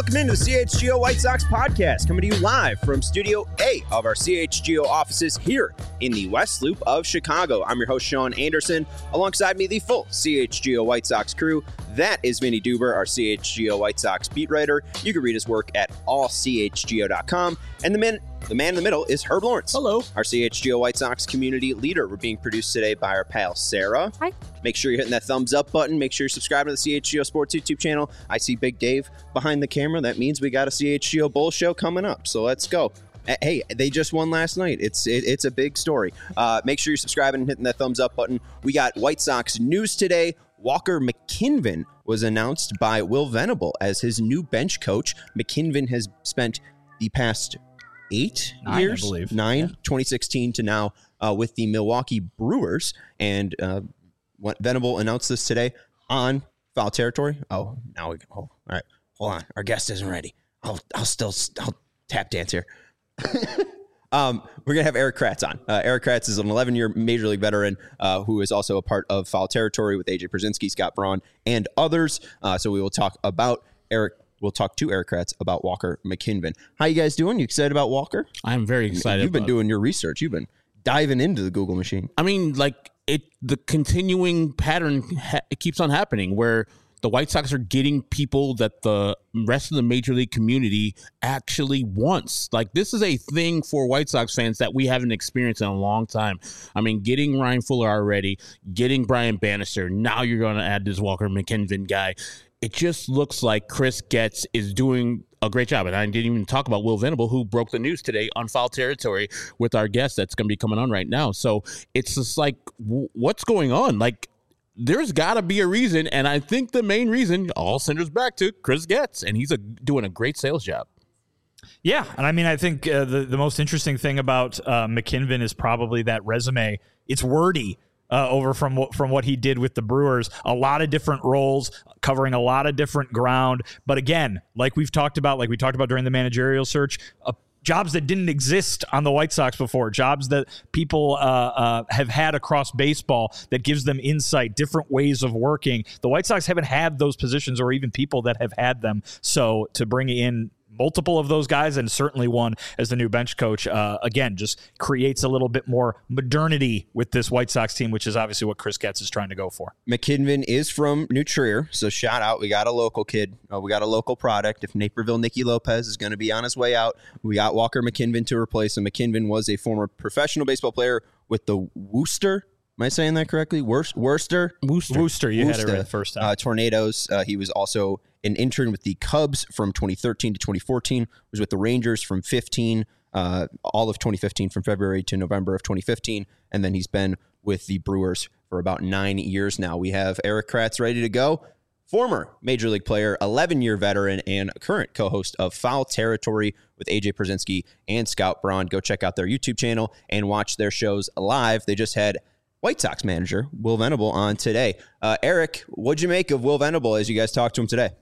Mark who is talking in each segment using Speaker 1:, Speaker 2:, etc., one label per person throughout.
Speaker 1: Welcome into the CHGO White Sox podcast, coming to you live from Studio A of our CHGO offices here in the West Loop of Chicago. I'm your host, Sean Anderson. Alongside me, the full CHGO White Sox crew. That is Vinny Duber, our CHGO White Sox beat writer. You can read his work at allchgo.com. And the man in the middle is Herb Lawrence.
Speaker 2: Hello.
Speaker 1: Our CHGO White Sox community leader. We're being produced today by our pal, Sarah.
Speaker 3: Hi.
Speaker 1: Make sure you're hitting that thumbs up button. Make sure you're subscribing to the CHGO Sports YouTube channel. I see Big Dave behind the camera. That means we got a CHGO Bull show coming up. So let's go. Hey, they just won last night. It's a big story. Make sure you're subscribing and hitting that thumbs up button. We got White Sox news today. Walker McKinven was announced by Will Venable as his new bench coach. McKinven has spent the past 8 years,
Speaker 2: I believe.
Speaker 1: 2016 to now, with the Milwaukee Brewers. And Venable announced this today on Foul Territory. Oh, now we go. Oh, all right, hold on. Our guest isn't ready. I'll tap dance here. We're going to have Erik Kratz on. Erik Kratz is an 11-year Major League veteran who is also a part of Foul Territory with AJ Pierzynski, Scott Braun, and others. So we will talk about Erik. We'll talk to Erik Kratz about Walker McKinven. How you guys doing? You excited about Walker?
Speaker 2: I'm very excited.
Speaker 1: You've been doing your research. You've been diving into the Google machine.
Speaker 2: I mean, the continuing pattern it keeps on happening where the White Sox are getting people that the rest of the Major League community actually wants. Like, this is a thing for White Sox fans that we haven't experienced in a long time. I mean, getting Ryan Fuller already, getting Brian Bannister. Now you're going to add this Walker McKinven guy. It just looks like Chris Getz is doing a great job. And I didn't even talk about Will Venable, who broke the news today on Foul Territory with our guest that's going to be coming on right now. So it's just like, what's going on? Like, there's got to be a reason, and I think the main reason all centers back to Chris Getz, and he's doing a great sales job.
Speaker 4: Yeah, and I mean, I think the most interesting thing about McKinven is probably that resume. It's wordy over from what he did with the Brewers. A lot of different roles, covering a lot of different ground. But again, like we talked about during the managerial search, jobs that didn't exist on the White Sox before, jobs that people have had across baseball that gives them insight, different ways of working. The White Sox haven't had those positions or even people that have had them. So to bring in multiple of those guys, and certainly one as the new bench coach, again, just creates a little bit more modernity with this White Sox team, which is obviously what Chris Getz is trying to go for.
Speaker 1: McKinven is from New Trier, so shout out. We got a local kid. We got a local product. If Naperville Nicky Lopez is going to be on his way out, we got Walker McKinven to replace him. McKinven was a former professional baseball player with the Worcester. Am I saying that correctly? Worcester.
Speaker 4: You had it right the first time.
Speaker 1: Tornadoes. He was also an intern with the Cubs from 2013 to 2014. Was with the Rangers from 15, all of 2015, from February to November of 2015, and then he's been with the Brewers for about 9 years now. We have Erik Kratz ready to go. Former Major League player, 11-year veteran, and current co-host of Foul Territory with AJ Pierzynski and Scott Braun. Go check out their YouTube channel and watch their shows live. They just had White Sox manager Will Venable on today. Erik, what'd you make of Will Venable as you guys talked to him today?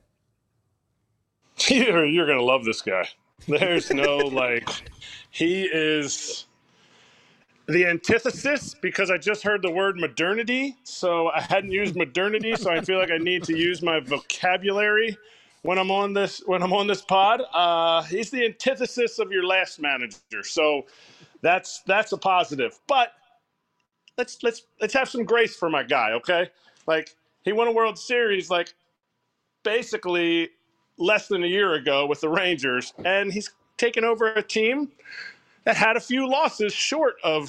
Speaker 5: You're going to love this guy. There's no, he is the antithesis, because I just heard the word modernity, so I hadn't used modernity, so I feel like I need to use my vocabulary when I'm on this pod. He's the antithesis of your last manager, so that's a positive. But let's have some grace for my guy, okay? He won a World Series basically less than a year ago with the Rangers, and he's taken over a team that had a few losses short of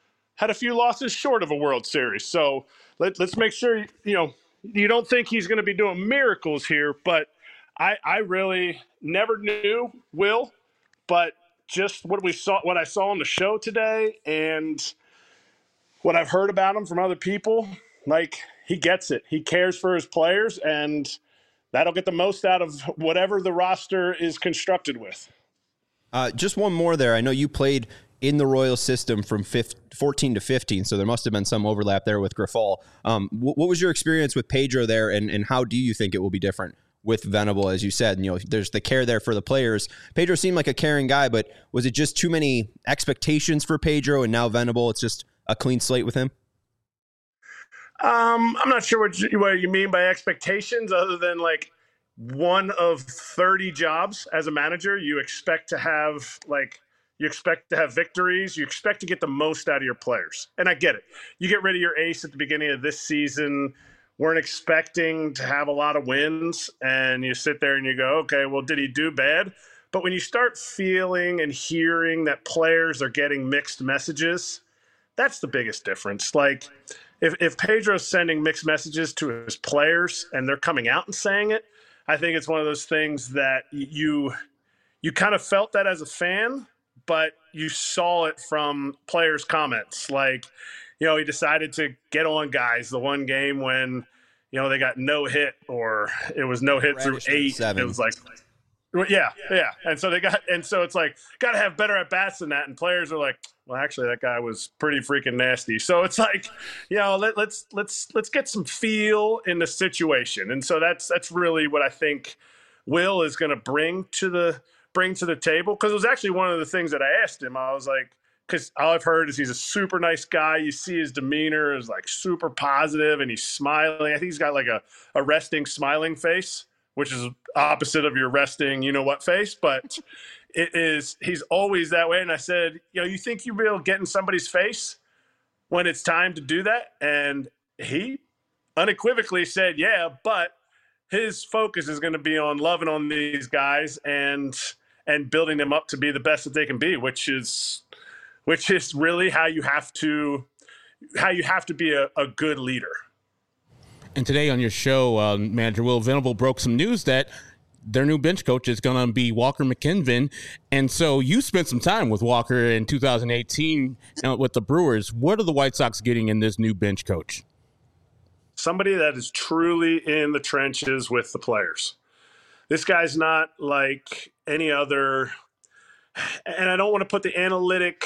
Speaker 5: a World Series. So let's make sure you don't think he's going to be doing miracles here, but I really never knew Will, but just what I saw on the show today and what I've heard about him from other people, he gets it. He cares for his players, and that'll get the most out of whatever the roster is constructed with.
Speaker 1: Just one more there. I know you played in the Royal system from 14 to 15, so there must have been some overlap there with Grifol. What was your experience with Pedro there, and how do you think it will be different with Venable? As you said, there's the care there for the players. Pedro seemed like a caring guy, but was it just too many expectations for Pedro, and now Venable, it's just a clean slate with him?
Speaker 5: I'm not sure what you mean by expectations, other than one of 30 jobs as a manager. You expect to have victories. You expect to get the most out of your players. And I get it. You get rid of your ace at the beginning of this season. Weren't expecting to have a lot of wins. And you sit there and you go, okay, well, did he do bad? But when you start feeling and hearing that players are getting mixed messages, that's the biggest difference. Like, if Pedro's sending mixed messages to his players and they're coming out and saying it, I think it's one of those things that you kind of felt that as a fan, but you saw it from players' comments. Like, he decided to get on guys the one game when, they got no hit, or it was no hit through 8.
Speaker 1: 7.
Speaker 5: It was like, yeah. And so it's like, got to have better at bats than that. And players are like, well, actually, that guy was pretty freaking nasty. So it's like, let's get some feel in the situation. And so that's really what I think Will is going to bring to the table. Because it was actually one of the things that I asked him. I was like, because all I've heard is he's a super nice guy. You see his demeanor is like super positive, and he's smiling. I think he's got like a resting, smiling face, which is opposite of your resting, face. But he's always that way. And I said, you think you'll be able to get in somebody's face when it's time to do that? And he unequivocally said, yeah, but his focus is going to be on loving on these guys and building them up to be the best that they can be, which is really how you have to be a good leader.
Speaker 2: And today on your show, Manager Will Venable broke some news that their new bench coach is going to be Walker McKinven. And so you spent some time with Walker in 2018 with the Brewers. What are the White Sox getting in this new bench coach?
Speaker 5: Somebody that is truly in the trenches with the players. This guy's not like any other, and I don't want to put the analytic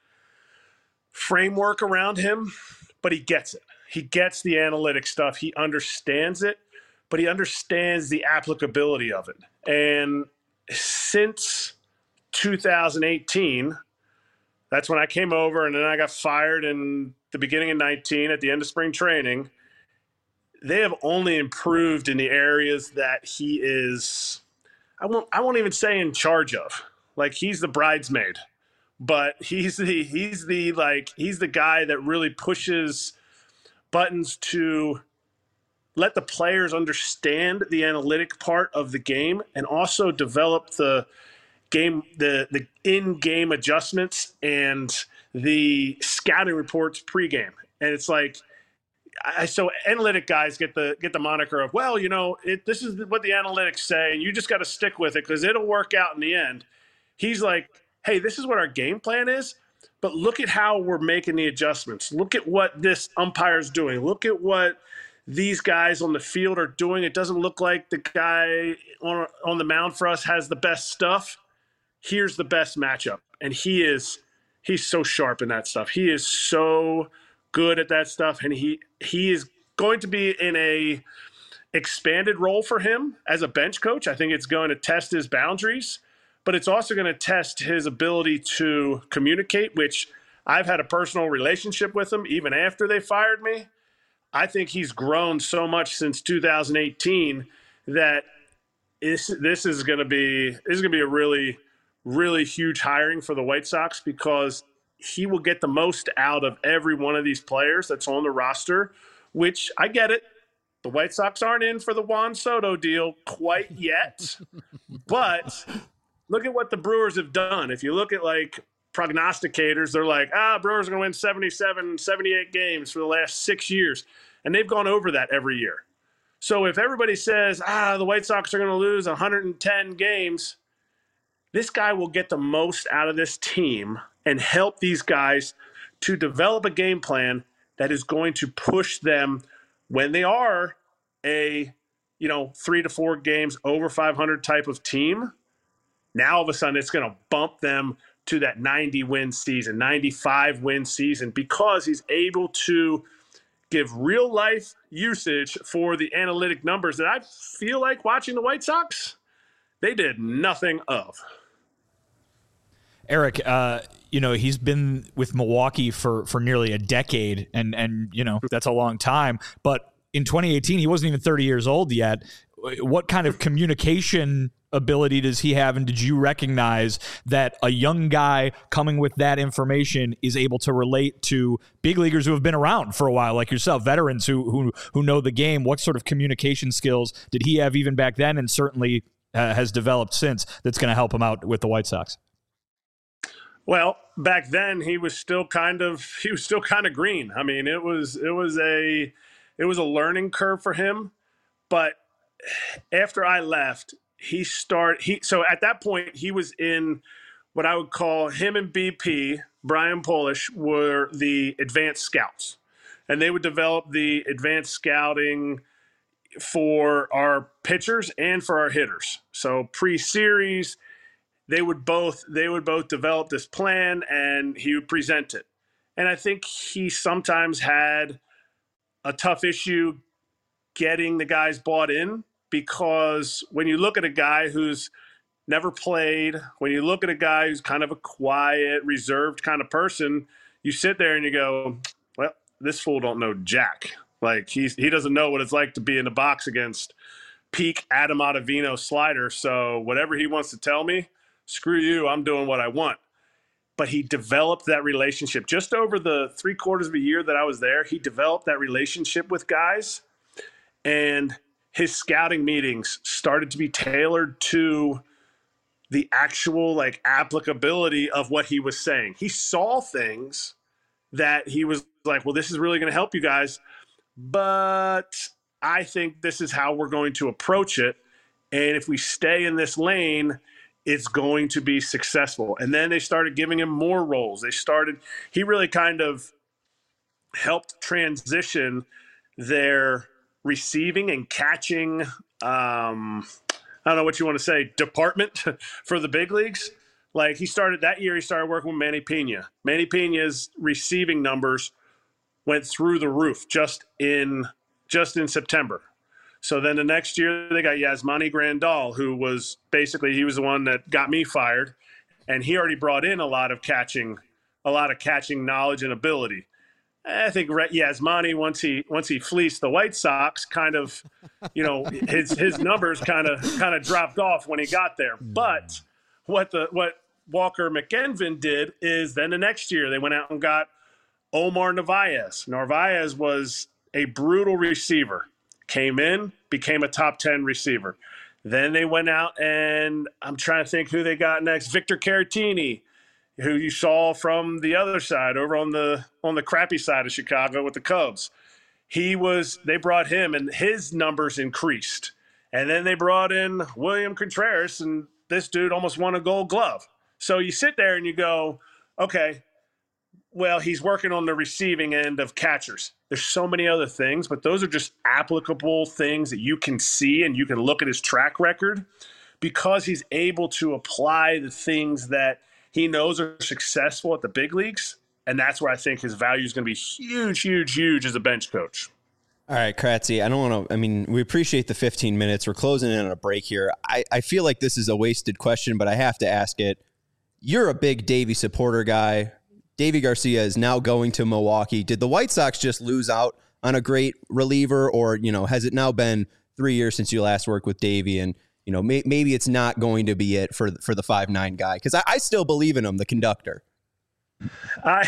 Speaker 5: framework around him, but he gets it. He gets the analytic stuff. He understands it, but he understands the applicability of it. And since 2018, that's when I came over, and then I got fired in the beginning of 19 at the end of spring training. They have only improved in the areas that he is, I won't even say in charge of. Like, he's the bridesmaid, but he's the guy that really pushes buttons to let the players understand the analytic part of the game, and also develop the game, the in-game adjustments and the scouting reports pregame. And it's like, so analytic guys get the moniker of, well, this is what the analytics say, and you just got to stick with it because it'll work out in the end. He's like, hey, this is what our game plan is, but look at how we're making the adjustments. Look at what this umpire's doing. Look at what these guys on the field are doing. It doesn't look like the guy on the mound for us has the best stuff. Here's the best matchup. And he's so sharp in that stuff. He is so good at that stuff, and he is going to be in a expanded role for him as a bench coach. I think it's going to test his boundaries, but it's also going to test his ability to communicate, which I've had a personal relationship with him even after they fired me. I think he's grown so much since 2018 that this is going to be a really, really huge hiring for the White Sox, because he will get the most out of every one of these players that's on the roster, which I get it. The White Sox aren't in for the Juan Soto deal quite yet, but look at what the Brewers have done. If you look at like prognosticators, they're like, Brewers are going to win 77, 78 games for the last 6 years. And they've gone over that every year. So if everybody says, the White Sox are going to lose 110 games, this guy will get the most out of this team and help these guys to develop a game plan that is going to push them when they are a, 3 to 4 games over 500 type of team. Now, all of a sudden, it's going to bump them to that 90-win season, 95-win season, because he's able to give real-life usage for the analytic numbers that I feel like watching the White Sox, they did nothing of.
Speaker 4: Eric, he's been with Milwaukee for nearly a decade, and that's a long time. But in 2018, he wasn't even 30 years old yet. what kind of communication ability does he have? And did you recognize that a young guy coming with that information is able to relate to big leaguers who have been around for a while, like yourself, veterans who know the game? What sort of communication skills did he have even back then, and certainly has developed since, that's going to help him out with the White Sox?
Speaker 5: Well, back then he was still kind of green. I mean, it was a learning curve for him. But after I left, so at that point he was in what I would call, him and BP, Brian Polish, were the advanced scouts. And they would develop the advanced scouting for our pitchers and for our hitters. So pre-series, they would both develop this plan and he would present it. And I think he sometimes had a tough issue getting the guys bought in, because when you look at a guy who's never played, when you look at a guy who's kind of a quiet, reserved kind of person, you sit there and you go, well, this fool don't know jack. Like he doesn't know what it's like to be in the box against peak Adam Ottavino slider. So whatever he wants to tell me, screw you, I'm doing what I want. But he developed that relationship. Just over the 3/4 of a year that I was there, he developed that relationship with guys. And his scouting meetings started to be tailored to the actual applicability of what he was saying. He saw things that he was like, well, this is really going to help you guys, but I think this is how we're going to approach it. And if we stay in this lane, it's going to be successful. And then they started giving him more roles. He really kind of helped transition their receiving and catching, I don't know what you want to say, department for the big leagues. Like he started working with Manny Pena. Manny Pena's receiving numbers went through the roof just in September. So then the next year they got Yasmani Grandal, who was he was the one that got me fired, and he already brought in a lot of catching knowledge and ability. I think Yasmani, once he fleeced the White Sox, kind of, his numbers kind of dropped off when he got there. But what Walker McKenvin did is then the next year they went out and got Omar Narvaez. Narvaez was a brutal receiver. Came in, became a top 10 receiver. Then they went out and I'm trying to think who they got next. Victor Caratini, who you saw from the other side, over on the crappy side of Chicago with the Cubs. They brought him and his numbers increased. And then they brought in William Contreras, and this dude almost won a Gold Glove. So you sit there and you go, okay, well, he's working on the receiving end of catchers. There's so many other things, but those are just applicable things that you can see, and you can look at his track record because he's able to apply the things that he knows are successful at the big leagues. And that's where I think his value is going to be huge, huge, huge as a bench coach.
Speaker 1: All right, Kratzy, we appreciate the 15 minutes. We're closing in on a break here. I feel like this is a wasted question, but I have to ask it. You're a big Davey supporter guy. Davey Garcia is now going to Milwaukee. Did the White Sox just lose out on a great reliever, or, has it now been 3 years since you last worked with Davey, and, maybe it's not going to be it for the 5'9" guy? Because I still believe in him, the conductor.
Speaker 5: I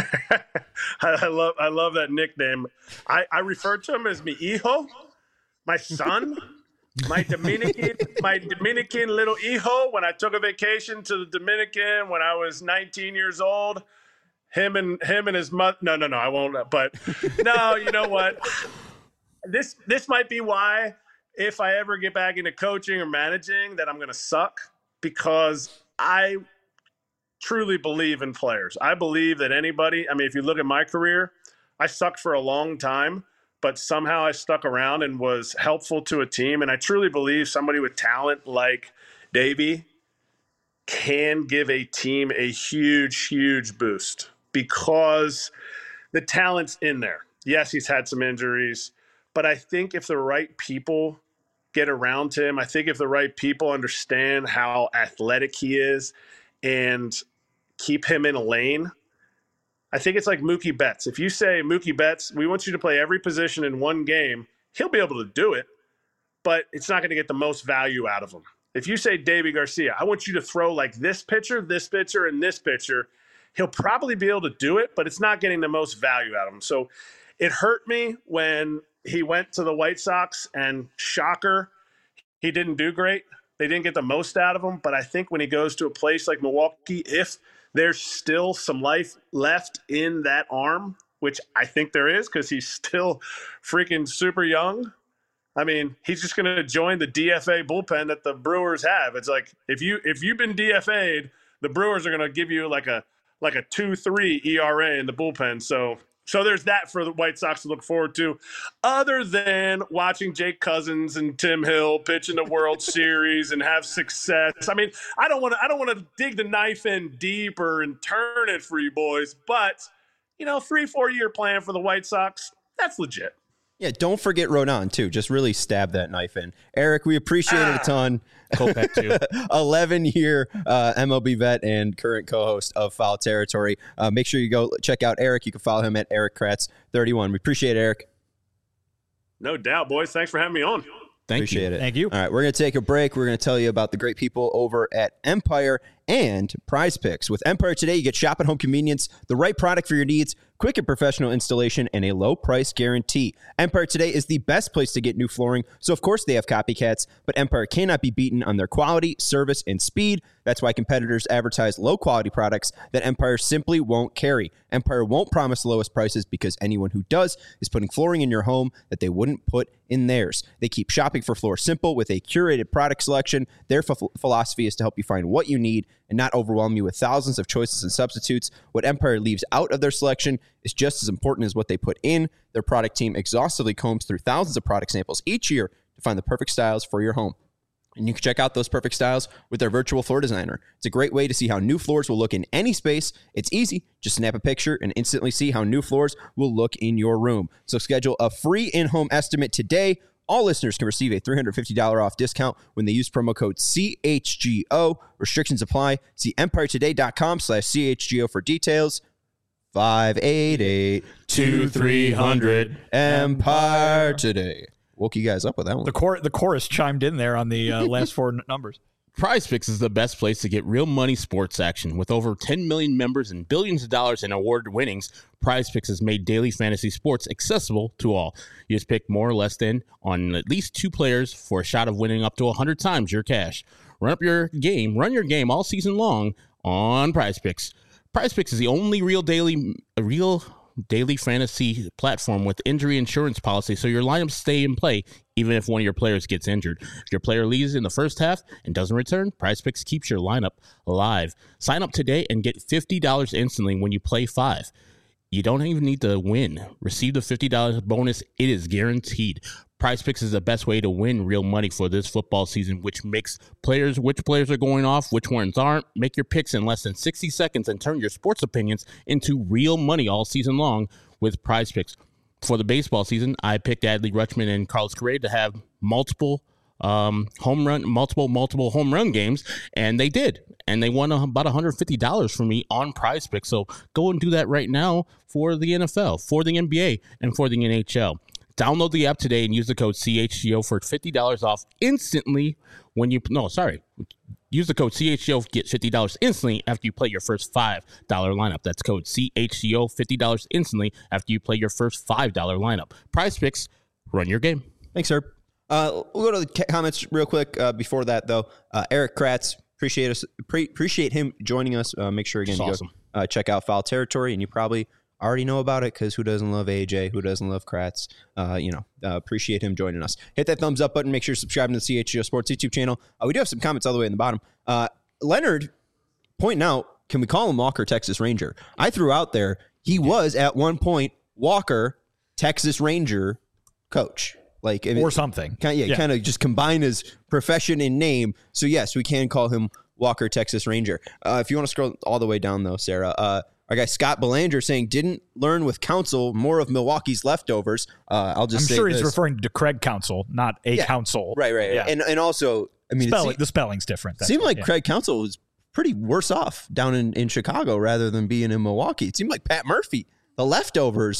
Speaker 5: love that nickname. I refer to him as mi hijo, my son, my Dominican little hijo. When I took a vacation to the Dominican when I was 19 years old, him and his mother. No, I won't. But no, you know what? This might be why, if I ever get back into coaching or managing, that I'm going to suck, because I truly believe in players. I believe that if you look at my career, I sucked for a long time, but somehow I stuck around and was helpful to a team. And I truly believe somebody with talent like Davey can give a team a huge, huge boost because the talent's in there. Yes, he's had some injuries, but I think if the right people get around him, I think if the right people understand how athletic he is and keep him in a lane, I think it's like Mookie Betts. If you say, Mookie Betts, we want you to play every position in one game, he'll be able to do it. but it's not going to get the most value out of him. If you say Deivi Garcia, I want you to throw like this pitcher, and this pitcher, he'll probably be able to do it, but it's not getting the most value out of him. So it hurt me when he went to the White Sox, and shocker, he didn't do great. They didn't get the most out of him, but I think when he goes to a place like Milwaukee, if there's still some life left in that arm, which I think there is because he's still freaking super young, I mean, he's just going to join the DFA bullpen that the Brewers have. It's like if you've been DFA'd, the Brewers are going to give you like a 2.3 ERA in the bullpen. So there's that for the White Sox to look forward to, other than watching Jake Cousins and Tim Hill pitch in the World Series and have success. I mean, I don't want to dig the knife in deeper and turn it for you boys, but 3-4 year plan for the White Sox, that's legit.
Speaker 1: Yeah, don't forget Rodon, too. Just really stab that knife in. Eric, we appreciate it a ton.
Speaker 2: Kopech, too.
Speaker 1: 11-year MLB vet and current co-host of Foul Territory. Make sure you go check out Eric. You can follow him at Eric Kratz31. We appreciate it, Eric.
Speaker 5: No doubt, boys. Thanks for having me on.
Speaker 1: Appreciate it.
Speaker 4: Thank you.
Speaker 1: All right, we're going to take a break. We're going to tell you about the great people over at Empire and Prize Picks. With Empire today, you get shop at home convenience, the right product for your needs, quick and professional installation, and a low price guarantee. Empire today is the best place to get new flooring, so of course they have copycats, but Empire cannot be beaten on their quality, service, and speed. That's why competitors advertise low-quality products that Empire simply won't carry. Empire won't promise the lowest prices because anyone who does is putting flooring in your home that they wouldn't put in theirs. They keep shopping for Floor Simple with a curated product selection. Their philosophy is to help you find what you need and not overwhelm you with thousands of choices and substitutes. What Empire leaves out of their selection is just as important as what they put in. Their product team exhaustively combs through thousands of product samples each year to find the perfect styles for your home. And you can check out those perfect styles with their virtual floor designer. It's a great way to see how new floors will look in any space. It's easy. Just snap a picture and instantly see how new floors will look in your room. So schedule a free in-home estimate today. All listeners can receive a $350 off discount when they use promo code CHGO. Restrictions apply. See EmpireToday.com/CHGO for details. 588-2300 Empire Today. Woke you guys up with that one.
Speaker 4: The chorus chimed in there on the last four numbers.
Speaker 2: Prize Picks is the best place to get real money sports action. With over 10 million members and billions of dollars in award winnings, Prize Picks has made daily fantasy sports accessible to all. You just pick more or less than on at least 2 players for a shot of winning up to 100 times your cash. Run your game all season long on Prize Picks. Prize Picks is the only real daily fantasy platform with injury insurance policy, so your lineups stay in play even if one of your players gets injured. If your player leaves in the first half and doesn't return, Prize Picks keeps your lineup alive. Sign up today and get $50 instantly when you play 5. You don't even need to win. Receive the $50 bonus. It is guaranteed. Prize Picks is the best way to win real money for this football season, which players are going off, which ones aren't. Make your picks in less than 60 seconds and turn your sports opinions into real money all season long with Prize Picks. For the baseball season, I picked Adley Rutschman and Carlos Correa to have multiple home run games, and they did. And they won about $150 from me on Prize Picks. So go and do that right now for the NFL, for the NBA, and for the NHL. Download the app today and use the code CHGO for $50 off instantly use the code CHGO, get $50 instantly after you play your first $5 lineup. That's code CHGO, $50 instantly after you play your first $5 lineup. Prize Picks, run your game.
Speaker 1: Thanks, sir. We'll go to the comments real quick. Before that, though, Eric Kratz, appreciate him joining us. Make sure, again, you go check out Foul Territory, and you probably already know about it because who doesn't love AJ? Who doesn't love Kratz? Appreciate him joining us. Hit that thumbs up button. Make sure you're subscribing to the CHGO Sports YouTube channel. We do have some comments all the way in the bottom. Leonard pointing out, can we call him Walker Texas Ranger? I threw out there, he was at one point Walker Texas Ranger coach.
Speaker 4: Or something.
Speaker 1: Kind of just combine his profession and name. So, yes, we can call him Walker Texas Ranger. If you want to scroll all the way down, though, Sarah, our guy Scott Belanger saying, didn't learn with Counsell more of Milwaukee's leftovers. I'm sure
Speaker 4: he's referring to Craig Counsell, not Counsell.
Speaker 1: Right. Yeah. And also, I mean,
Speaker 4: the spelling's different.
Speaker 1: It seemed like Craig Counsell was pretty worse off down in Chicago rather than being in Milwaukee. It seemed like Pat Murphy, the leftovers,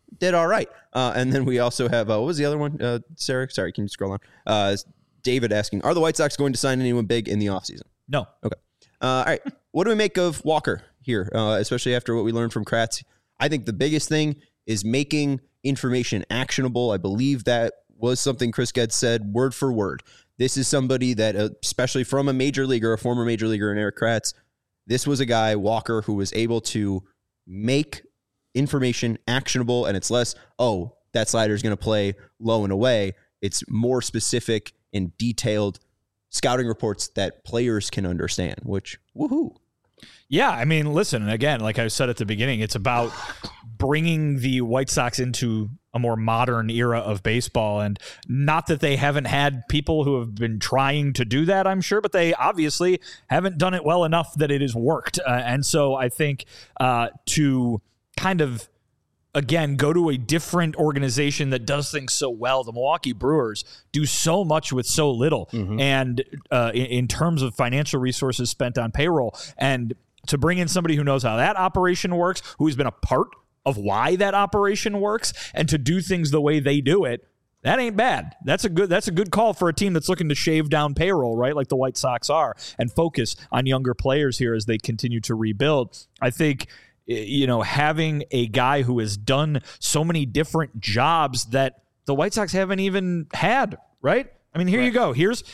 Speaker 1: did all right. And then we also have, what was the other one, Sarah? Sorry, can you scroll on? David asking, are the White Sox going to sign anyone big in the offseason?
Speaker 4: No.
Speaker 1: Okay. All right. What do we make of Walker here, especially after what we learned from Kratz? I think the biggest thing is making information actionable. I believe that was something Chris Getz said word for word. This is somebody that, especially from a major leaguer, a former major leaguer in Erik Kratz, this was a guy, Walker, who was able to make information actionable, and it's less, oh, that slider is going to play low and away. It's more specific and detailed scouting reports that players can understand, which, woohoo.
Speaker 4: Yeah, I mean, listen, again, like I said at the beginning, it's about bringing the White Sox into a more modern era of baseball. And not that they haven't had people who have been trying to do that, I'm sure, but they obviously haven't done it well enough that it has worked. And so I think to kind of, again, go to a different organization that does things so well. The Milwaukee Brewers do so much with so little. Mm-hmm. And in terms of financial resources spent on payroll, and to bring in somebody who knows how that operation works, who's been a part of why that operation works, and to do things the way they do it, that ain't bad. That's a good call for a team that's looking to shave down payroll, right? Like the White Sox are, and focus on younger players here as they continue to rebuild. I think, you know, having a guy who has done so many different jobs that the White Sox haven't even had, right? I mean, here you go. Here is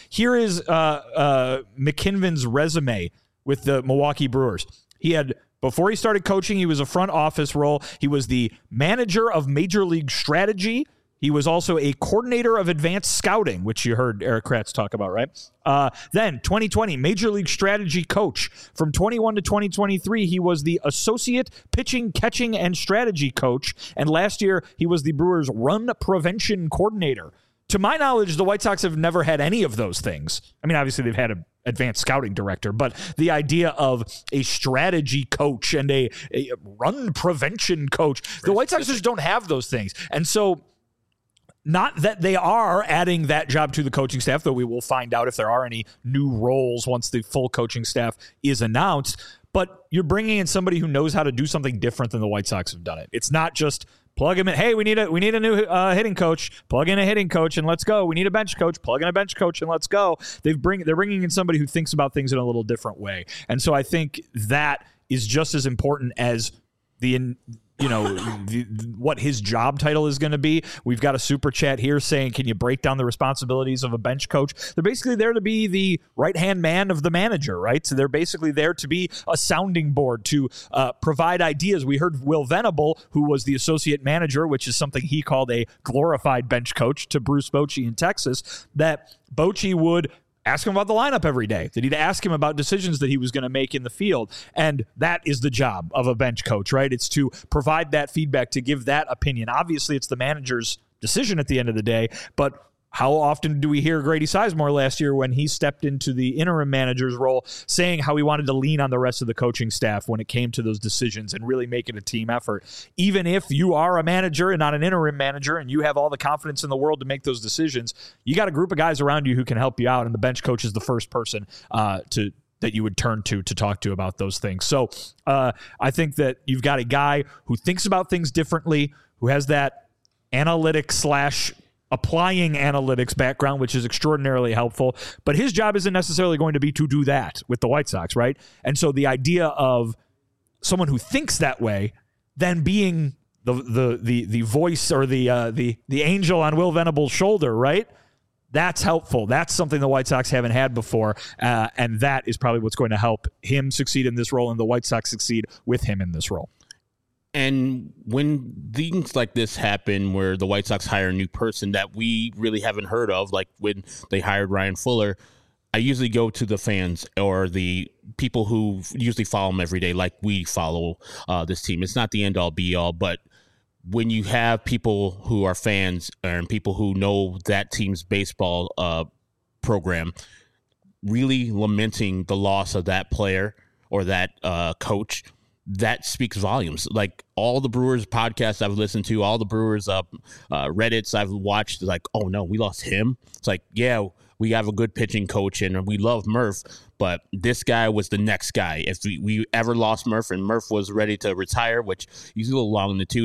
Speaker 4: McKinven's resume with the Milwaukee Brewers. He had, before he started coaching, he was a front office role. He was the manager of Major League Strategy. He was also a coordinator of advanced scouting, which you heard Erik Kratz talk about, right? Then 2020, Major League Strategy coach. From 21 to 2023, he was the associate pitching, catching, and strategy coach. And last year, he was the Brewers' run prevention coordinator. To my knowledge, the White Sox have never had any of those things. I mean, obviously, they've had an advanced scouting director, but the idea of a strategy coach and a run prevention coach, the White Sox just don't have those things. And so, not that they are adding that job to the coaching staff, though we will find out if there are any new roles once the full coaching staff is announced, but you're bringing in somebody who knows how to do something different than the White Sox have done it. It's not just plug him in. Hey, we need a new hitting coach. Plug in a hitting coach and let's go. We need a bench coach. Plug in a bench coach and let's go. They're bringing in somebody who thinks about things in a little different way. And so I think that is just as important as what his job title is going to be. We've got a super chat here saying, can you break down the responsibilities of a bench coach? They're basically there to be the right-hand man of the manager, right? So they're basically there to be a sounding board, to provide ideas. We heard Will Venable, who was the associate manager, which is something he called a glorified bench coach, to Bruce Bochy in Texas, that Bochy would ask him about the lineup every day, that he'd ask him about decisions that he was going to make in the field. And that is the job of a bench coach, right? It's to provide that feedback, to give that opinion. Obviously, it's the manager's decision at the end of the day, but how often do we hear Grady Sizemore last year when he stepped into the interim manager's role saying how he wanted to lean on the rest of the coaching staff when it came to those decisions and really make it a team effort? Even if you are a manager and not an interim manager and you have all the confidence in the world to make those decisions, you got a group of guys around you who can help you out, and the bench coach is the first person that you would turn to talk to about those things. So I think that you've got a guy who thinks about things differently, who has that analytic / applying analytics background, which is extraordinarily helpful, but his job isn't necessarily going to be to do that with the White Sox, right? And so the idea of someone who thinks that way then being the voice or the angel on Will Venable's shoulder, right? That's helpful. That's something the White Sox haven't had before, and that is probably what's going to help him succeed in this role and the White Sox succeed with him in this role.
Speaker 2: And when things like this happen, where the White Sox hire a new person that we really haven't heard of, like when they hired Ryan Fuller, I usually go to the fans or the people who usually follow them every day, like we follow this team. It's not the end-all, be-all, but when you have people who are fans and people who know that team's baseball program really lamenting the loss of that player or that coach, that speaks volumes. Like all the Brewers podcasts I've listened to, all the Brewers Reddits I've watched, like, oh no, we lost him. It's like, yeah, we have a good pitching coach and we love Murph, but this guy was the next guy. If we ever lost Murph and Murph was ready to retire, which he's a little long in the tooth,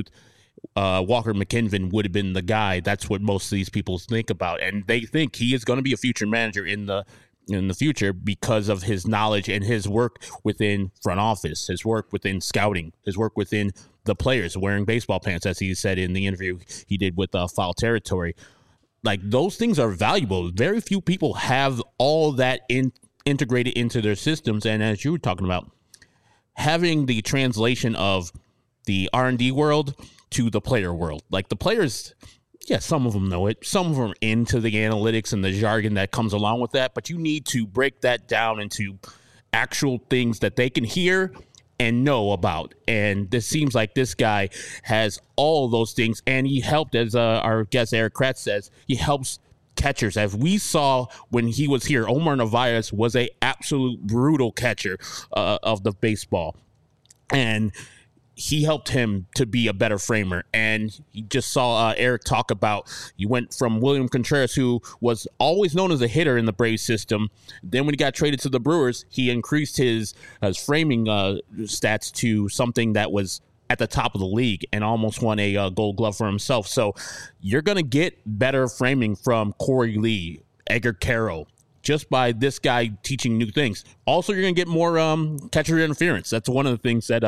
Speaker 2: Walker McKinven would have been the guy. That's what most of these people think about, and they think he is going to be a future manager in the future because of his knowledge and his work within front office, his work within scouting, his work within the players wearing baseball pants, as he said in the interview he did with Foul Territory. Like, those things are valuable. Very few people have all that integrated into their systems, and as you were talking about, having the translation of the R&D world to the player world. Like, the players, yeah, some of them know it. Some of them are into the analytics and the jargon that comes along with that, but you need to break that down into actual things that they can hear and know about. And this seems like this guy has all of those things, and he helped, as our guest Eric Kratz says, he helps catchers. As we saw when he was here, Omar Narvaez was a absolute brutal catcher of the baseball, and he helped him to be a better framer. And he just saw Eric talk about, you went from William Contreras, who was always known as a hitter in the Braves system. Then when he got traded to the Brewers, he increased his framing stats to something that was at the top of the league and almost won a Gold Glove for himself. So you're going to get better framing from Corey Lee, Edgar Carroll, just by this guy teaching new things. Also, you're going to get more catcher interference. That's one of the things that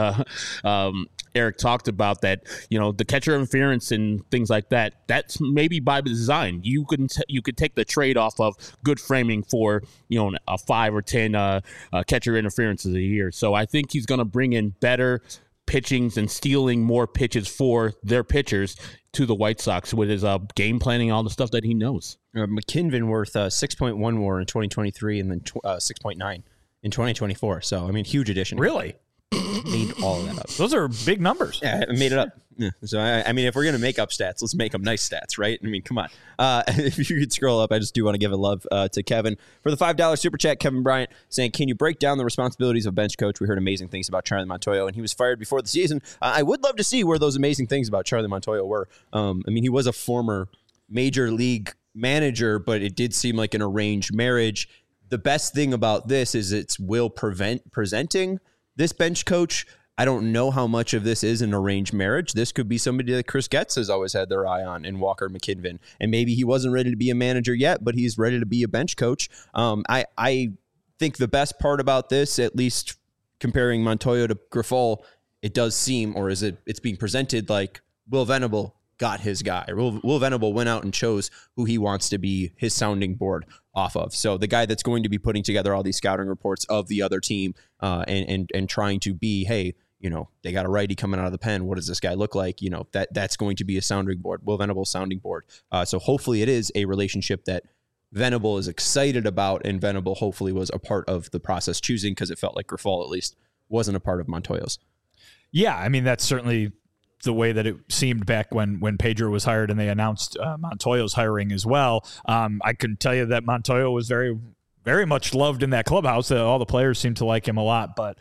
Speaker 2: Eric talked about, that, you know, the catcher interference and things like that, that's maybe by design. You could take the trade-off of good framing for, you know, a 5 or 10 catcher interferences a year. So I think he's going to bring in better pitchings and stealing more pitches for their pitchers to the White Sox with his game planning, all the stuff that he knows.
Speaker 1: McKinven worth 6.1 WAR in 2023 and then 6.9 in 2024. So, I mean, huge addition.
Speaker 4: Really?
Speaker 1: Made all of that up.
Speaker 4: Those are big numbers.
Speaker 1: Yeah, I made it up. Yeah. So, I mean, if we're going to make up stats, let's make them nice stats, right? I mean, come on. If you could scroll up, I just do want to give a love to Kevin. For the $5 super chat, Kevin Bryant saying, can you break down the responsibilities of bench coach? We heard amazing things about Charlie Montoyo, and he was fired before the season. I would love to see where those amazing things about Charlie Montoyo were. I mean, he was a former major league manager, but it did seem like an arranged marriage. The best thing about this is it's Will presenting this bench coach. I don't know how much of this is an arranged marriage. This could be somebody that Chris Getz has always had their eye on in Walker McKinven. And maybe he wasn't ready to be a manager yet, but he's ready to be a bench coach. I think the best part about this, at least comparing Montoyo to Grifol, it does seem, or it's being presented like Will Venable got his guy. Will Venable went out and chose who he wants to be his sounding board off of. So the guy that's going to be putting together all these scouting reports of the other team and trying to be, hey, you know, they got a righty coming out of the pen. What does this guy look like? You know, that's going to be a sounding board, Will Venable sounding board. So hopefully it is a relationship that Venable is excited about, and Venable hopefully was a part of the process choosing, because it felt like Grifol at least wasn't a part of Montoyo's. Yeah,
Speaker 4: I mean, that's certainly the way that it seemed back when Pedro was hired and they announced Montoyo's hiring as well. I can tell you that Montoyo was very, very much loved in that clubhouse. All the players seemed to like him a lot, but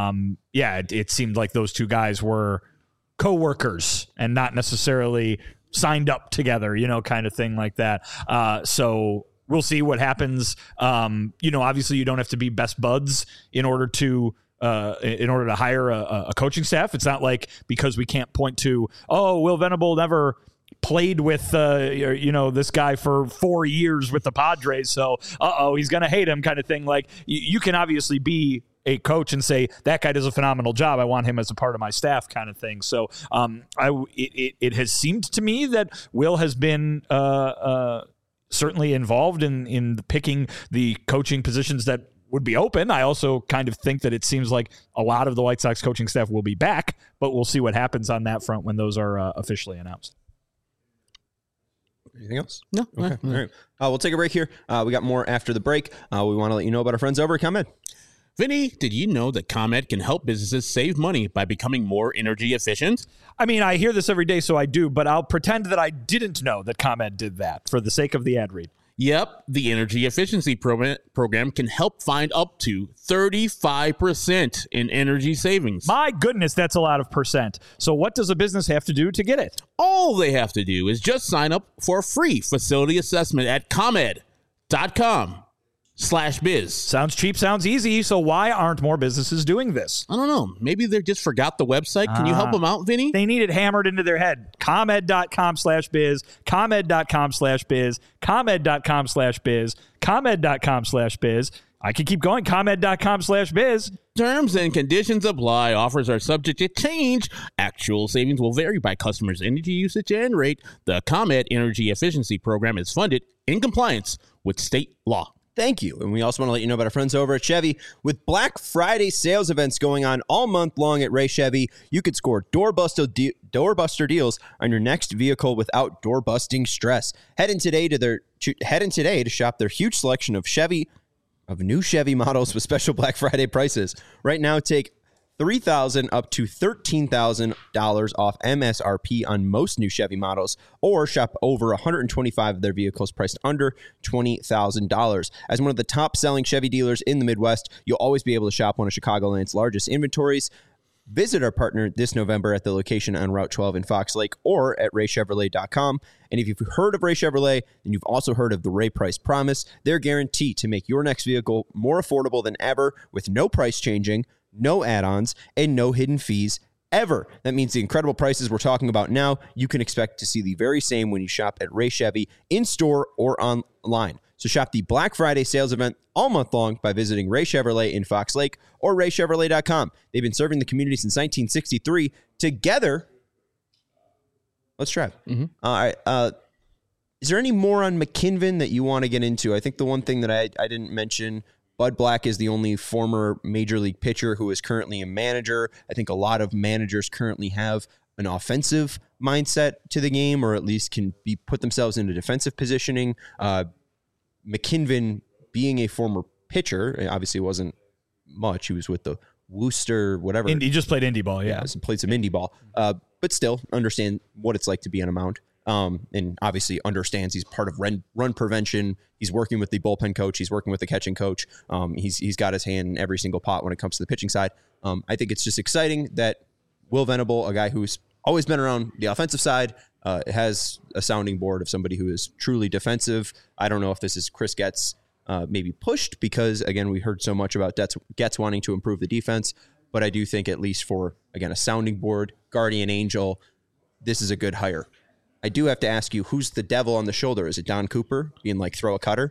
Speaker 4: it seemed like those two guys were co-workers and not necessarily signed up together, you know, kind of thing like that. So we'll see what happens. Obviously you don't have to be best buds in order to hire a coaching staff. It's not like because we can't point to, Will Venable never played with this guy for 4 years with the Padres, so he's gonna hate him, kind of thing. Like, you can obviously be a coach and say, that guy does a phenomenal job, I want him as a part of my staff, kind of thing. So it has seemed to me that Will has been certainly involved in picking the coaching positions that would be open. I also kind of think that it seems like a lot of the White Sox coaching staff will be back, but we'll see what happens on that front when those are officially announced.
Speaker 1: Anything else?
Speaker 2: No.
Speaker 1: Okay. All right. We'll take a break here. We got more after the break. We want to let you know about our friends over at ComEd.
Speaker 2: Vinny, did you know that ComEd can help businesses save money by becoming more energy efficient?
Speaker 4: I mean, I hear this every day, so I do, but I'll pretend that I didn't know that ComEd did that for the sake of the ad read.
Speaker 2: Yep, the energy efficiency program can help find up to 35% in energy savings.
Speaker 4: My goodness, that's a lot of percent. So what does a business have to do to get it?
Speaker 2: All they have to do is just sign up for a free facility assessment at ComEd.com/ComEd. chevy.com/biz.
Speaker 4: Sounds cheap, sounds easy. So why aren't more businesses doing this?
Speaker 2: I don't know. Maybe they just forgot the website. Can you help them out, Vinny?
Speaker 4: They need it hammered into their head. ComEd.com/biz, ComEd.com/biz, ComEd.com/biz, ComEd.com/biz. I can keep going. ComEd.com/biz.
Speaker 2: Terms and conditions apply. Offers are subject to change. Actual savings will vary by customers' energy usage and rate. The ComEd Energy Efficiency Program is funded in compliance with state law.
Speaker 1: Thank you. And we also want to let you know about our friends over at Chevy. With Black Friday sales events going on all month long at Ray Chevy, you could score doorbuster deals on your next vehicle without door-busting stress. Head in today to shop their huge selection of new Chevy models with special Black Friday prices. Right now, take $3,000 up to $13,000 off MSRP on most new Chevy models, or shop over 125 of their vehicles priced under $20,000. As one of the top-selling Chevy dealers in the Midwest, you'll always be able to shop one of Chicagoland's largest inventories. Visit our partner this November at the location on Route 12 in Fox Lake or at raychevrolet.com. And if you've heard of Ray Chevrolet, then you've also heard of the Ray Price Promise. They're guaranteed to make your next vehicle more affordable than ever with no price changing, no add-ons, and no hidden fees ever. That means the incredible prices we're talking about now, you can expect to see the very same when you shop at Ray Chevy in-store or online. So shop the Black Friday sales event all month long by visiting Ray Chevrolet in Fox Lake or raychevrolet.com. They've been serving the community since 1963. Together, let's try. All right. Is there any more on McKinven that you want to get into? I think the one thing that I didn't mention, Bud Black is the only former major league pitcher who is currently a manager. I think a lot of managers currently have an offensive mindset to the game, or at least can put themselves into defensive positioning. McKinven, being a former pitcher, obviously wasn't much. He was with the Worcester, whatever.
Speaker 4: He just played indie ball, yeah.
Speaker 1: Played some indie ball. But still understand what it's like to be on a mound. And obviously understands he's part of run prevention. He's working with the bullpen coach. He's working with the catching coach. He's got his hand in every single pot when it comes to the pitching side. I think it's just exciting that Will Venable, a guy who's always been around the offensive side, has a sounding board of somebody who is truly defensive. I don't know if this is Chris Getz maybe pushed because, again, we heard so much about Getz wanting to improve the defense. But I do think at least for, again, a sounding board, guardian angel, this is a good hire. I do have to ask you, who's the devil on the shoulder? Is it Don Cooper being like, throw a cutter?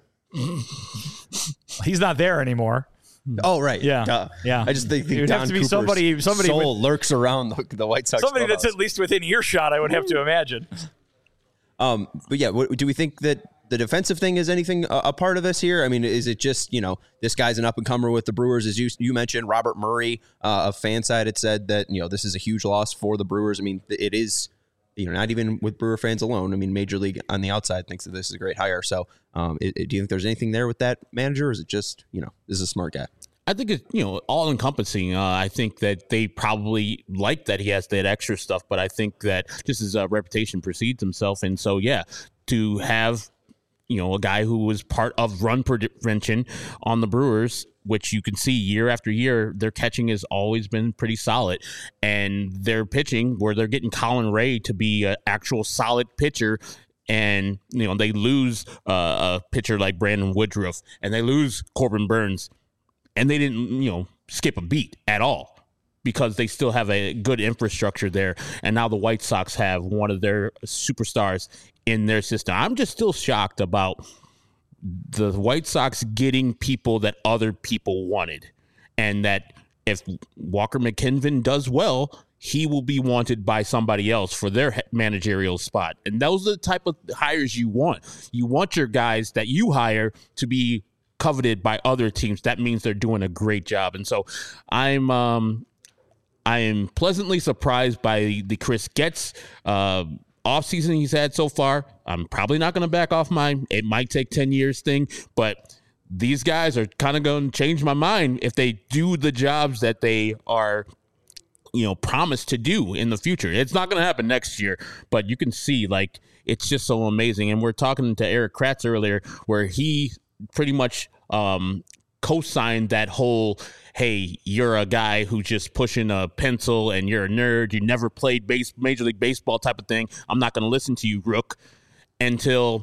Speaker 4: He's not there anymore.
Speaker 1: Oh, right.
Speaker 4: Yeah.
Speaker 1: Duh.
Speaker 4: Yeah.
Speaker 1: I just think
Speaker 4: It would
Speaker 1: Don
Speaker 4: have to be
Speaker 1: Cooper's
Speaker 4: somebody
Speaker 1: soul lurks around the White Sox.
Speaker 4: Somebody
Speaker 1: clubhouse.
Speaker 4: that's at least within earshot, I would have to imagine.
Speaker 1: But yeah, do we think that the defensive thing is anything a part of this here? I mean, is it just, this guy's an up-and-comer with the Brewers? As you mentioned, Robert Murray of Fanside had said that, this is a huge loss for the Brewers. I mean, it is, not even with Brewer fans alone. I mean, Major League on the outside thinks that this is a great hire. So do you think there's anything there with that manager, or is it just, this is a smart guy?
Speaker 2: I think it's, all encompassing. I think that they probably like that he has that extra stuff, but I think that just his reputation precedes himself. And so, yeah, to have, a guy who was part of run prevention on the Brewers, which you can see year after year, their catching has always been pretty solid. And their pitching, where they're getting Colin Ray to be an actual solid pitcher, and, they lose a pitcher like Brandon Woodruff, and they lose Corbin Burns. And they didn't, skip a beat at all because they still have a good infrastructure there. And now the White Sox have one of their superstars in their system. I'm just still shocked about the White Sox getting people that other people wanted. And that if Walker McKinven does well, he will be wanted by somebody else for their managerial spot. And those are the type of hires you want. You want your guys that you hire to be coveted by other teams. That means they're doing a great job. And so I am pleasantly surprised by the Chris Getz offseason he's had so far. I'm probably not going to back off it might take 10 years thing, but these guys are kind of going to change my mind if they do the jobs that they are promised to do in the future. It's not going to happen next year, but you can see it's just so amazing. And we're talking to Eric Kratz earlier where he pretty much co-signed that whole, hey, you're a guy who's just pushing a pencil and you're a nerd, you never played Major League Baseball type of thing, I'm not going to listen to you, Rook, until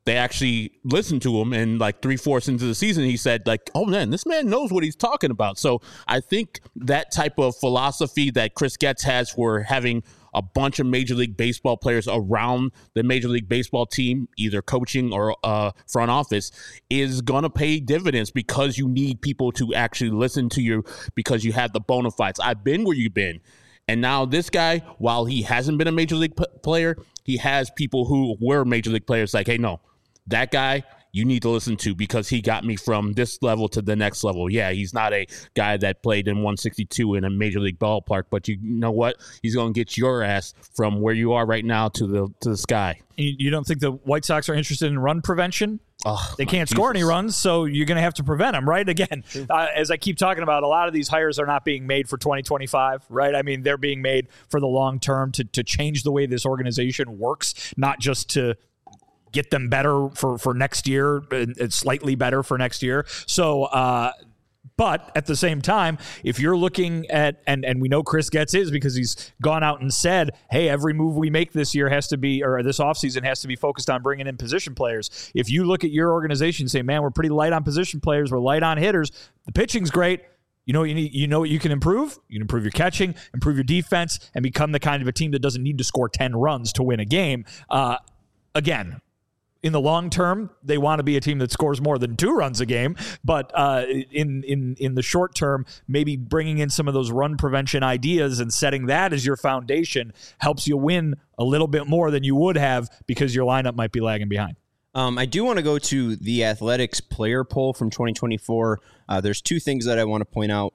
Speaker 2: they actually listened to him, and like 3/4 into the season, he said like, oh man, this man knows what he's talking about. So I think that type of philosophy that Chris Getz has for having a bunch of Major League Baseball players around the Major League Baseball team, either coaching or front office, is going to pay dividends because you need people to actually listen to you because you have the bona fides. I've been where you've been. And now this guy, while he hasn't been a Major League player, he has people who were Major League players like, hey, no, that guy you need to listen to because he got me from this level to the next level. Yeah, he's not a guy that played in 162 in a Major League ballpark, but you know what? He's going to get your ass from where you are right now to the sky.
Speaker 4: You don't think the White Sox are interested in run prevention?
Speaker 2: Oh,
Speaker 4: they can't score any runs, so you're going to have to prevent them, right? Again, as I keep talking about, a lot of these hires are not being made for 2025, right? I mean, they're being made for the long term to change the way this organization works, not just to get them better for next year, and slightly better for next year. So, but at the same time, if you're looking at, and we know Chris Getz is because he's gone out and said, hey, every move we make this year has to be, or this offseason has to be focused on bringing in position players. If you look at your organization and say, man, we're pretty light on position players, we're light on hitters, the pitching's great. You know what you need, you know what you can improve? You can improve your catching, improve your defense, and become the kind of a team that doesn't need to score 10 runs to win a game. Again, in the long term, they want to be a team that scores more than 2 runs a game. But in the short term, maybe bringing in some of those run prevention ideas and setting that as your foundation helps you win a little bit more than you would have because your lineup might be lagging behind.
Speaker 1: I do want to go to the Athletics player poll from 2024. There's 2 things that I want to point out.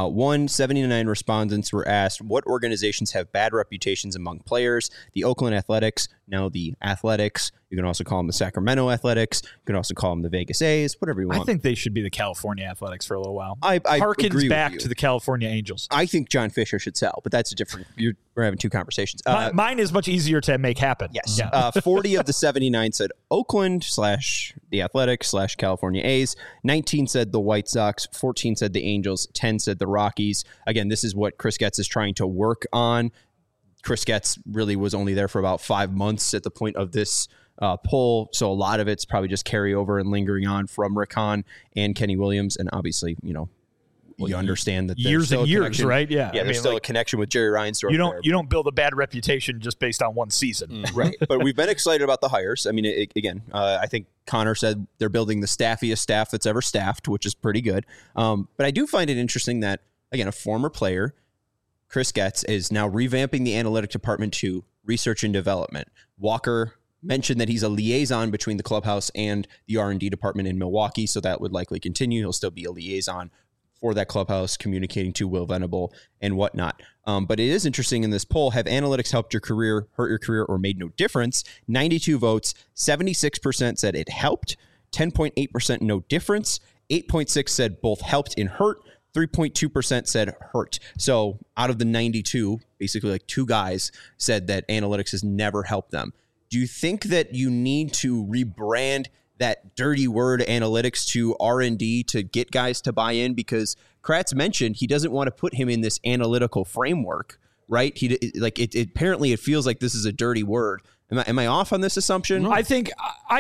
Speaker 1: 79 respondents were asked what organizations have bad reputations among players. The Oakland Athletics, now the Athletics. You can also call them the Sacramento Athletics. You can also call them the Vegas A's, whatever you want.
Speaker 4: I think they should be the California Athletics for a little while.
Speaker 1: I
Speaker 4: harkens back to the California Angels.
Speaker 1: I think John Fisher should sell, but that's a different. We're having 2 conversations.
Speaker 4: Mine is much easier to make happen.
Speaker 1: Yes. Yeah. 40 of the 79 said Oakland / the Athletics / California A's. 19 said the White Sox. 14 said the Angels. 10 said the Rockies. Again, this is what Chris Getz is trying to work on. Chris Getz really was only there for about 5 months at the point of this poll, so a lot of it's probably just carryover and lingering on from Rick Hahn and Kenny Williams, and obviously, you understand that
Speaker 4: years and years, right? Yeah,
Speaker 1: there's still a connection with Jerry Reinsdorf.
Speaker 4: You don't build a bad reputation just based on one season,
Speaker 1: right? But we've been excited about the hires. I mean, I think Connor said they're building the staffiest staff that's ever staffed, which is pretty good. But I do find it interesting that again, a former player, Chris Getz, is now revamping the analytic department to research and development. Walker mentioned that he's a liaison between the clubhouse and the R&D department in Milwaukee, so that would likely continue. He'll still be a liaison for that clubhouse, communicating to Will Venable and whatnot. But it is interesting in this poll, have analytics helped your career, hurt your career, or made no difference? 92 votes, 76% said it helped, 10.8% no difference, 8.6% said both helped and hurt, 3.2% said hurt. So out of the 92, basically like 2 guys said that analytics has never helped them. Do you think that you need to rebrand that dirty word analytics to R&D to get guys to buy in? Because Kratz mentioned he doesn't want to put him in this analytical framework, right? Apparently it feels like this is a dirty word. Am I off on this assumption?
Speaker 4: I think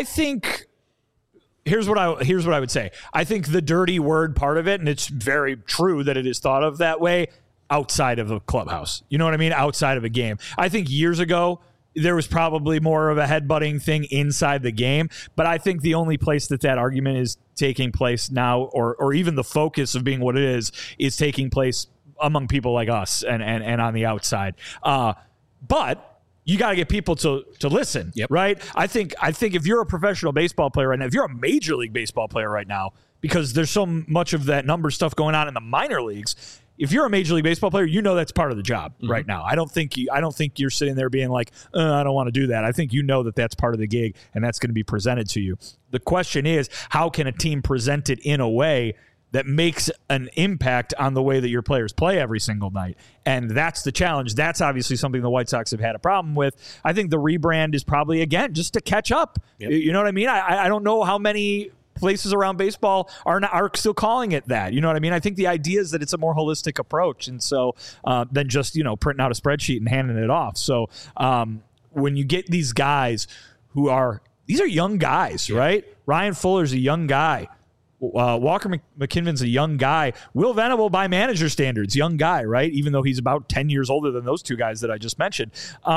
Speaker 4: here's what I would say. I think the dirty word part of it, and it's very true that it is thought of that way outside of a clubhouse. You know what I mean? Outside of a game. I think years ago, there was probably more of a headbutting thing inside the game, but I think the only place that argument is taking place now, or even the focus of being what it is taking place among people like us and on the outside. But you got to get people to listen, right? I think if you're a professional baseball player right now, if you're a Major League Baseball player right now, because there's so much of that number stuff going on in the minor leagues. If you're a Major League Baseball player, you know that's part of the job right now. I don't think you're sitting there being like, I don't want to do that. I think you know that that's part of the gig and that's going to be presented to you. The question is, how can a team present it in a way that makes an impact on the way that your players play every single night? And that's the challenge. That's obviously something the White Sox have had a problem with. I think the rebrand is probably, again, just to catch up. Yep. You know what I mean? I don't know how many places around baseball are still calling it that. You know what I mean? I think the idea is that it's a more holistic approach. And so than just, printing out a spreadsheet and handing it off. So when you get these guys who are these are young guys, right? Ryan Fuller's a young guy. Walker McKinven's a young guy. Will Venable, by manager standards, young guy, right? Even though he's about 10 years older than those two guys that I just mentioned.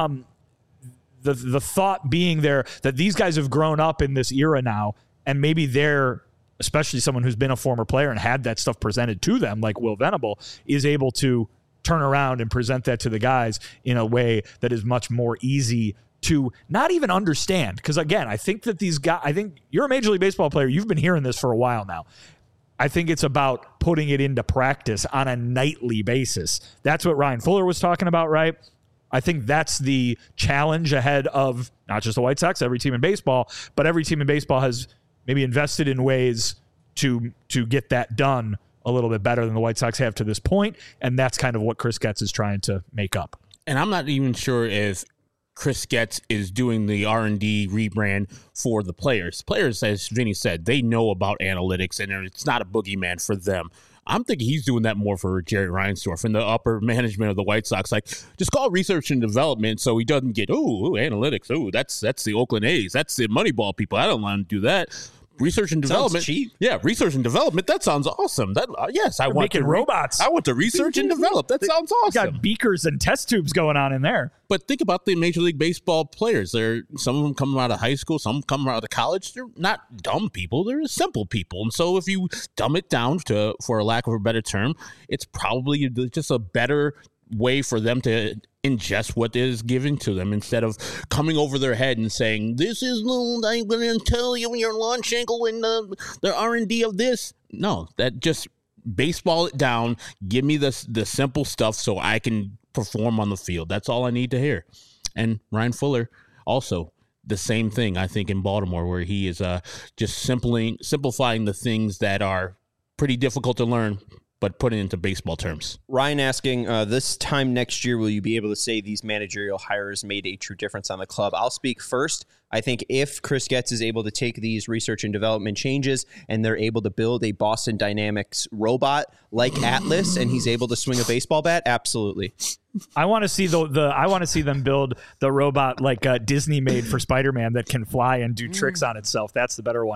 Speaker 4: The thought being there that these guys have grown up in this era now, and maybe they're, especially someone who's been a former player and had that stuff presented to them, like Will Venable, is able to turn around and present that to the guys in a way that is much more easy to not even understand. Because again, I think that these guys, I think you're a Major League Baseball player. You've been hearing this for a while now. I think it's about putting it into practice on a nightly basis. That's what Ryan Fuller was talking about, right? I think that's the challenge ahead of not just the White Sox, every team in baseball, but every team in baseball has maybe invested in ways to get that done a little bit better than the White Sox have to this point. And that's kind of what Chris Getz is trying to make up.
Speaker 2: And I'm not even sure if Chris Getz is doing the R&D rebrand for the players. Players, as Vinny said, they know about analytics, and it's not a boogeyman for them. I'm thinking he's doing that more for Jerry Reinsdorf and the upper management of the White Sox. Like, just call research and development so he doesn't get, analytics. That's the Oakland A's. That's the Moneyball people. I don't want to do that. Research and development.
Speaker 1: Sounds cheap.
Speaker 2: Yeah, research and development. That sounds awesome. I want
Speaker 4: making robots.
Speaker 2: I want to research and develop. That sounds awesome.
Speaker 4: You got beakers and test tubes going on in there.
Speaker 2: But think about the Major League Baseball players. Some of them come out of high school, some come out of college. They're not dumb people. They're simple people. And so if you dumb it down to, for a lack of a better term, it's probably just a better way for them to ingest what is given to them instead of coming over their head and saying, this is I'm going to tell you your launch angle and the R&D of this. No, that just baseball it down. Give me the simple stuff so I can perform on the field. That's all I need to hear. And Ryan Fuller also the same thing, I think, in Baltimore, where he is just simplifying the things that are pretty difficult to learn, but put it into baseball terms.
Speaker 1: Ryan asking, this time next year, will you be able to say these managerial hires made a true difference on the club? I'll speak first. I think if Chris Getz is able to take these research and development changes and they're able to build a Boston Dynamics robot like Atlas and he's able to swing a baseball bat, absolutely.
Speaker 4: I want to see I want to see them build the robot like Disney made for Spider-Man that can fly and do tricks on itself. That's the better one.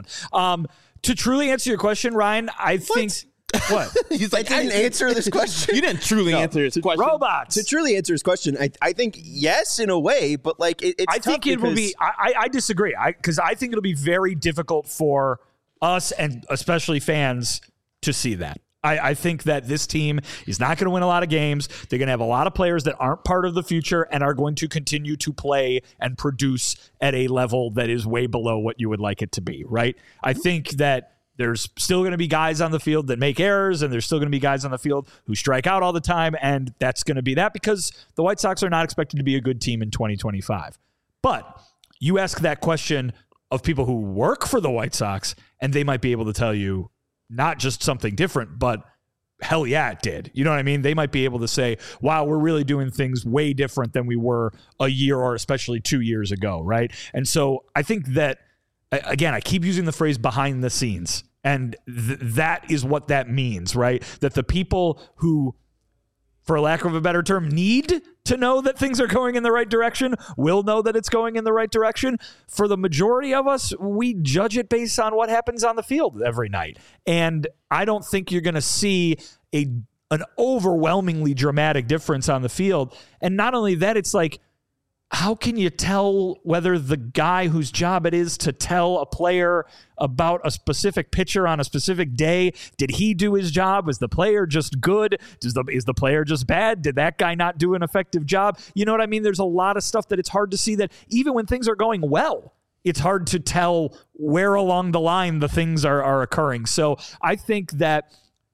Speaker 4: To truly answer your question, Ryan, I think. What?
Speaker 1: He's like, I didn't answer this question.
Speaker 2: You didn't truly answer his question.
Speaker 4: Robots.
Speaker 1: To truly answer his question, I think yes, in a way, but like it's
Speaker 4: I think it will be. I disagree. Because I think it'll be very difficult for us and especially fans to see that. I think that this team is not going to win a lot of games. They're going to have a lot of players that aren't part of the future and are going to continue to play and produce at a level that is way below what you would like it to be, right? I think that there's still going to be guys on the field that make errors, and there's still going to be guys on the field who strike out all the time, and that's going to be that because the White Sox are not expected to be a good team in 2025. But you ask that question of people who work for the White Sox, and they might be able to tell you not just something different, but hell yeah, it did. You know what I mean? They might be able to say, wow, we're really doing things way different than we were a year or especially 2 years ago, right? And so I think that, again, I keep using the phrase behind the scenes, and that is what that means, right? That the people who, for lack of a better term, need to know that things are going in the right direction will know that it's going in the right direction. For the majority of us, we judge it based on what happens on the field every night. And I don't think you're going to see an overwhelmingly dramatic difference on the field. And not only that, it's like, how can you tell whether the guy whose job it is to tell a player about a specific pitcher on a specific day, did he do his job? Was the player just good? Is the player just bad? Did that guy not do an effective job? You know what I mean? There's a lot of stuff that it's hard to see that even when things are going well, it's hard to tell where along the line the things are occurring. So I think that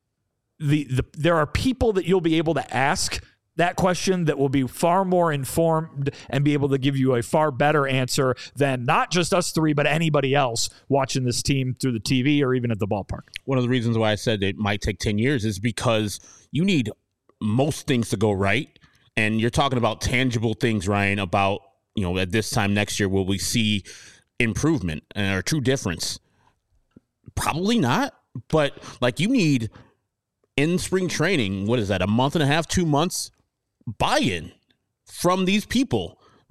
Speaker 4: there are people that you'll be able to ask that question that will be far more informed and be able to give you a far better answer than not just us three, but anybody else watching this team through the TV or even at the ballpark.
Speaker 2: One of the reasons why I said it might take 10 years is because you need most things to go right. And you're talking about tangible things, Ryan, about, at this time next year, will we see improvement or true difference? Probably not. But like you need in spring training, what is that, a month and a half, 2 months? Buy-in from these people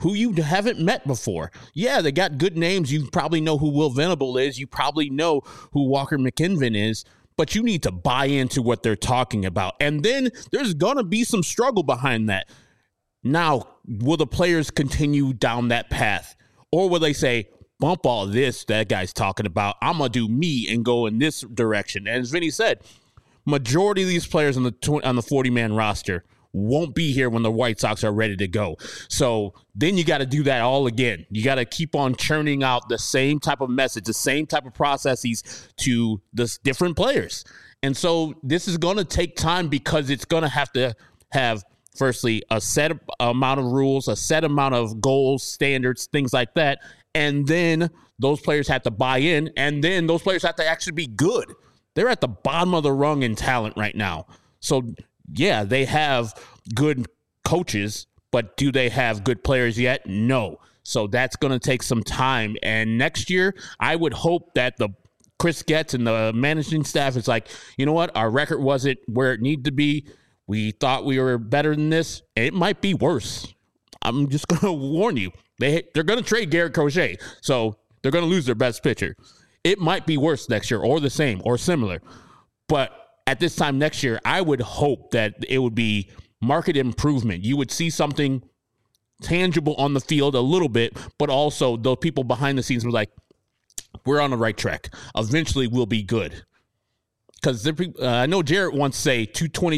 Speaker 2: who you haven't met before. Yeah, they got good names. You probably know who Will Venable is. You probably know who Walker McKinven is, but you need to buy into what they're talking about. And then there's going to be some struggle behind that. Now, will the players continue down that path? Or will they say, bump all this that guy's talking about, I'm going to do me and go in this direction? And as Vinny said, majority of these players on the 40-man roster won't be here when the White Sox are ready to go. So then you got to do that all again. You got to keep on churning out the same type of message, the same type of processes to the different players. And so this is going to take time because it's going to have firstly a set amount of rules, a set amount of goals, standards, things like that. And then those players have to buy in, and then those players have to actually be good. They're at the bottom of the rung in talent right now. So yeah, they have good coaches, but do they have good players yet? No. So that's going to take some time. And next year, I would hope that the Chris Getz and the managing staff is like, you know what? Our record wasn't where it needed to be. We thought we were better than this. It might be worse. I'm just going to warn you. They're going to trade Garrett Crochet, so they're going to lose their best pitcher. It might be worse next year or the same or similar. But at this time next year, I would hope that it would be market improvement. You would see something tangible on the field a little bit, but also those people behind the scenes were like, we're on the right track. Eventually we'll be good. Because I know Jarrett wants to say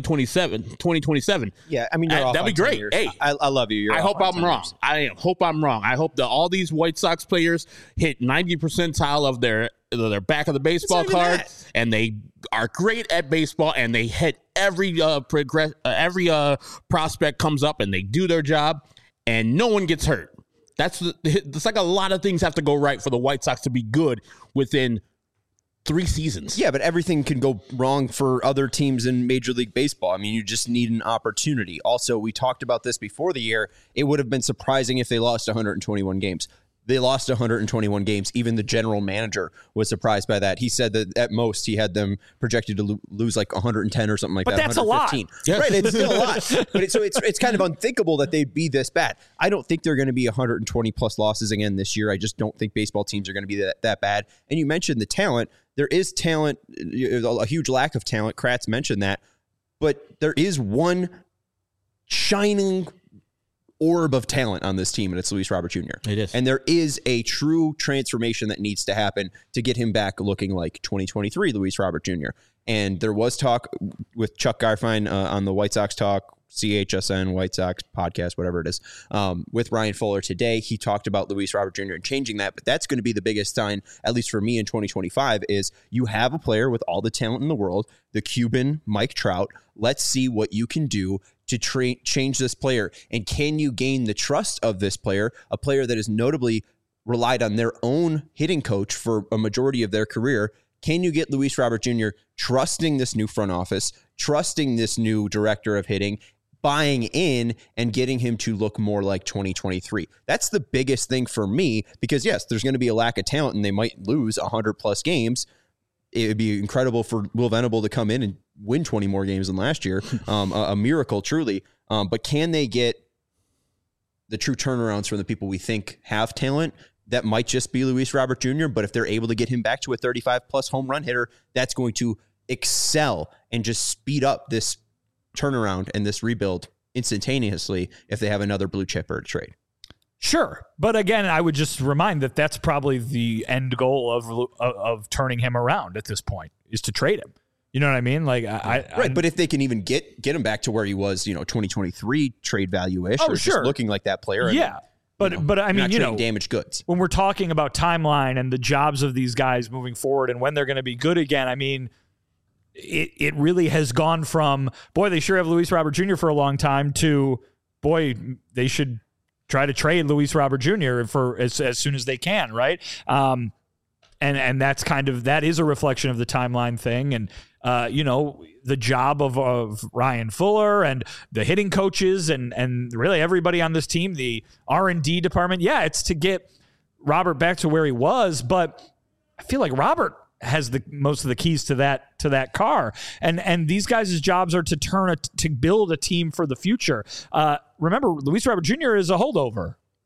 Speaker 2: 2027.
Speaker 1: Yeah, I mean, that'd
Speaker 2: be great. Hey,
Speaker 1: I love you.
Speaker 2: I hope I'm wrong. I hope I'm wrong. I hope that all these White Sox players hit 90th percentile of their back of the baseball card, and they are great at baseball, and they hit every prospect comes up, and they do their job, and no one gets hurt. It's like a lot of things have to go right for the White Sox to be good within 3 seasons.
Speaker 1: Yeah, but everything can go wrong for other teams in Major League Baseball. I mean, you just need an opportunity. Also, we talked about this before the year. It would have been surprising if they lost 121 games. They lost 121 games. Even the general manager was surprised by that. He said that at most he had them projected to lose like 110 or something like that.
Speaker 4: But that's a lot.
Speaker 2: Yes.
Speaker 1: Right, it's still a lot. But it's kind of unthinkable that they'd be this bad. I don't think they're going to be 120 plus losses again this year. I just don't think baseball teams are going to be that bad. And you mentioned the talent. There is talent, a huge lack of talent. Kratz mentioned that. But there is one shining orb of talent on this team, and it's Luis Robert Jr.
Speaker 2: It is.
Speaker 1: And there is a true transformation that needs to happen to get him back looking like 2023 Luis Robert Jr. And there was talk with Chuck Garfien on the White Sox Talk, CHSN, White Sox podcast, whatever it is, with Ryan Fuller today. He talked about Luis Robert Jr. and changing that, but that's going to be the biggest sign, at least for me in 2025, is you have a player with all the talent in the world, the Cuban Mike Trout. Let's see what you can do to change this player. And can you gain the trust of this player, a player that has notably relied on their own hitting coach for a majority of their career? Can you get Luis Robert Jr. trusting this new front office, trusting this new director of hitting, buying in and getting him to look more like 2023? That's the biggest thing for me, because yes, there's going to be a lack of talent and they might lose 100 plus games. It would be incredible for Will Venable to come in and win 20 more games than last year. A miracle, truly. But can they get the true turnarounds from the people we think have talent? That might just be Luis Robert Jr., but if they're able to get him back to a 35-plus home run hitter, that's going to excel and just speed up this turnaround and this rebuild instantaneously if they have another blue chipper to trade.
Speaker 4: Sure. But again, I would just remind that that's probably the end goal of turning him around at this point, is to trade him. You know what I mean? Like,
Speaker 1: right. But if they can even get him back to where he was, 2023 trade value-ish, or
Speaker 4: sure,
Speaker 1: just looking like that player.
Speaker 4: Yeah. But I mean,
Speaker 1: damaged goods.
Speaker 4: When we're talking about timeline and the jobs of these guys moving forward and when they're going to be good again, I mean, it really has gone from, boy, they sure have Luis Robert Jr. for a long time, to, boy, they should try to trade Luis Robert Jr. for as soon as they can, right? And that's that is a reflection of the timeline thing. And, the job of Ryan Fuller and the hitting coaches and really everybody on this team, the R&D department. Yeah, it's to get Robert back to where he was, but I feel like Robert has the most of the keys to that car. And these guys' jobs are to build a team for the future. Remember, Luis Robert Jr. is a holdover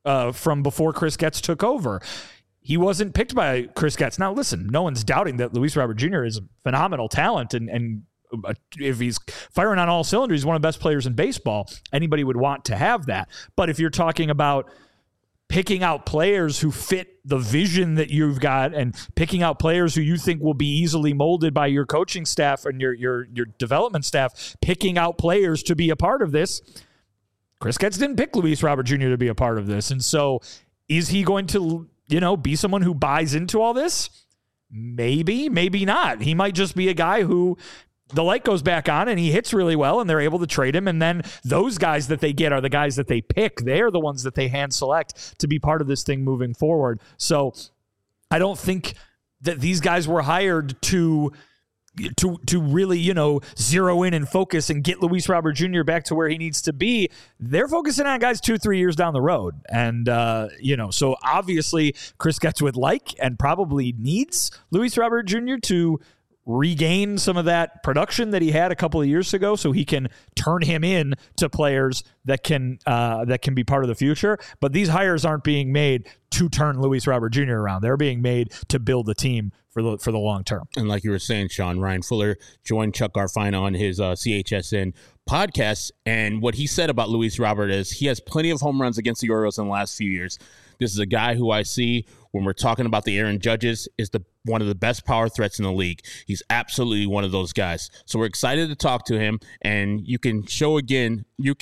Speaker 4: from before Chris Getz took over. He wasn't picked by Chris Getz. Now, listen, no one's doubting that Luis Robert Jr. is a phenomenal talent, and if he's firing on all cylinders, he's one of the best players in baseball. Anybody would want to have that. But if you're talking about picking out players who fit the vision that you've got and picking out players who you think will be easily molded by your coaching staff and your development staff, picking out players to be a part of this, Chris Getz didn't pick Luis Robert Jr. to be a part of this. And so is he going to, be someone who buys into all this? Maybe, maybe not. He might just be a guy who the light goes back on and he hits really well and they're able to trade him. And then those guys that they get are the guys that they pick. They're the ones that they hand select to be part of this thing moving forward. So I don't think that these guys were hired to really, zero in and focus and get Luis Robert Jr. back to where he needs to be. They're focusing on guys 2-3 years down the road. And, so obviously Chris Getz would like and probably needs Luis Robert Jr. to regain some of that production that he had a couple of years ago so he can turn him in to players that can be part of the future. But these hires aren't being made to turn Luis Robert Jr. around. They're being made to build the team for the long term.
Speaker 2: And like you were saying, Sean, Ryan Fuller joined Chuck Garfien on his CHSN podcast, and what he said about Luis Robert is he has plenty of home runs against the Orioles in the last few years. This is a guy who I see when we're talking about the Aaron Judges is one of the best power threats in the league. He's absolutely one of those guys. So we're excited to talk to him, and you can show them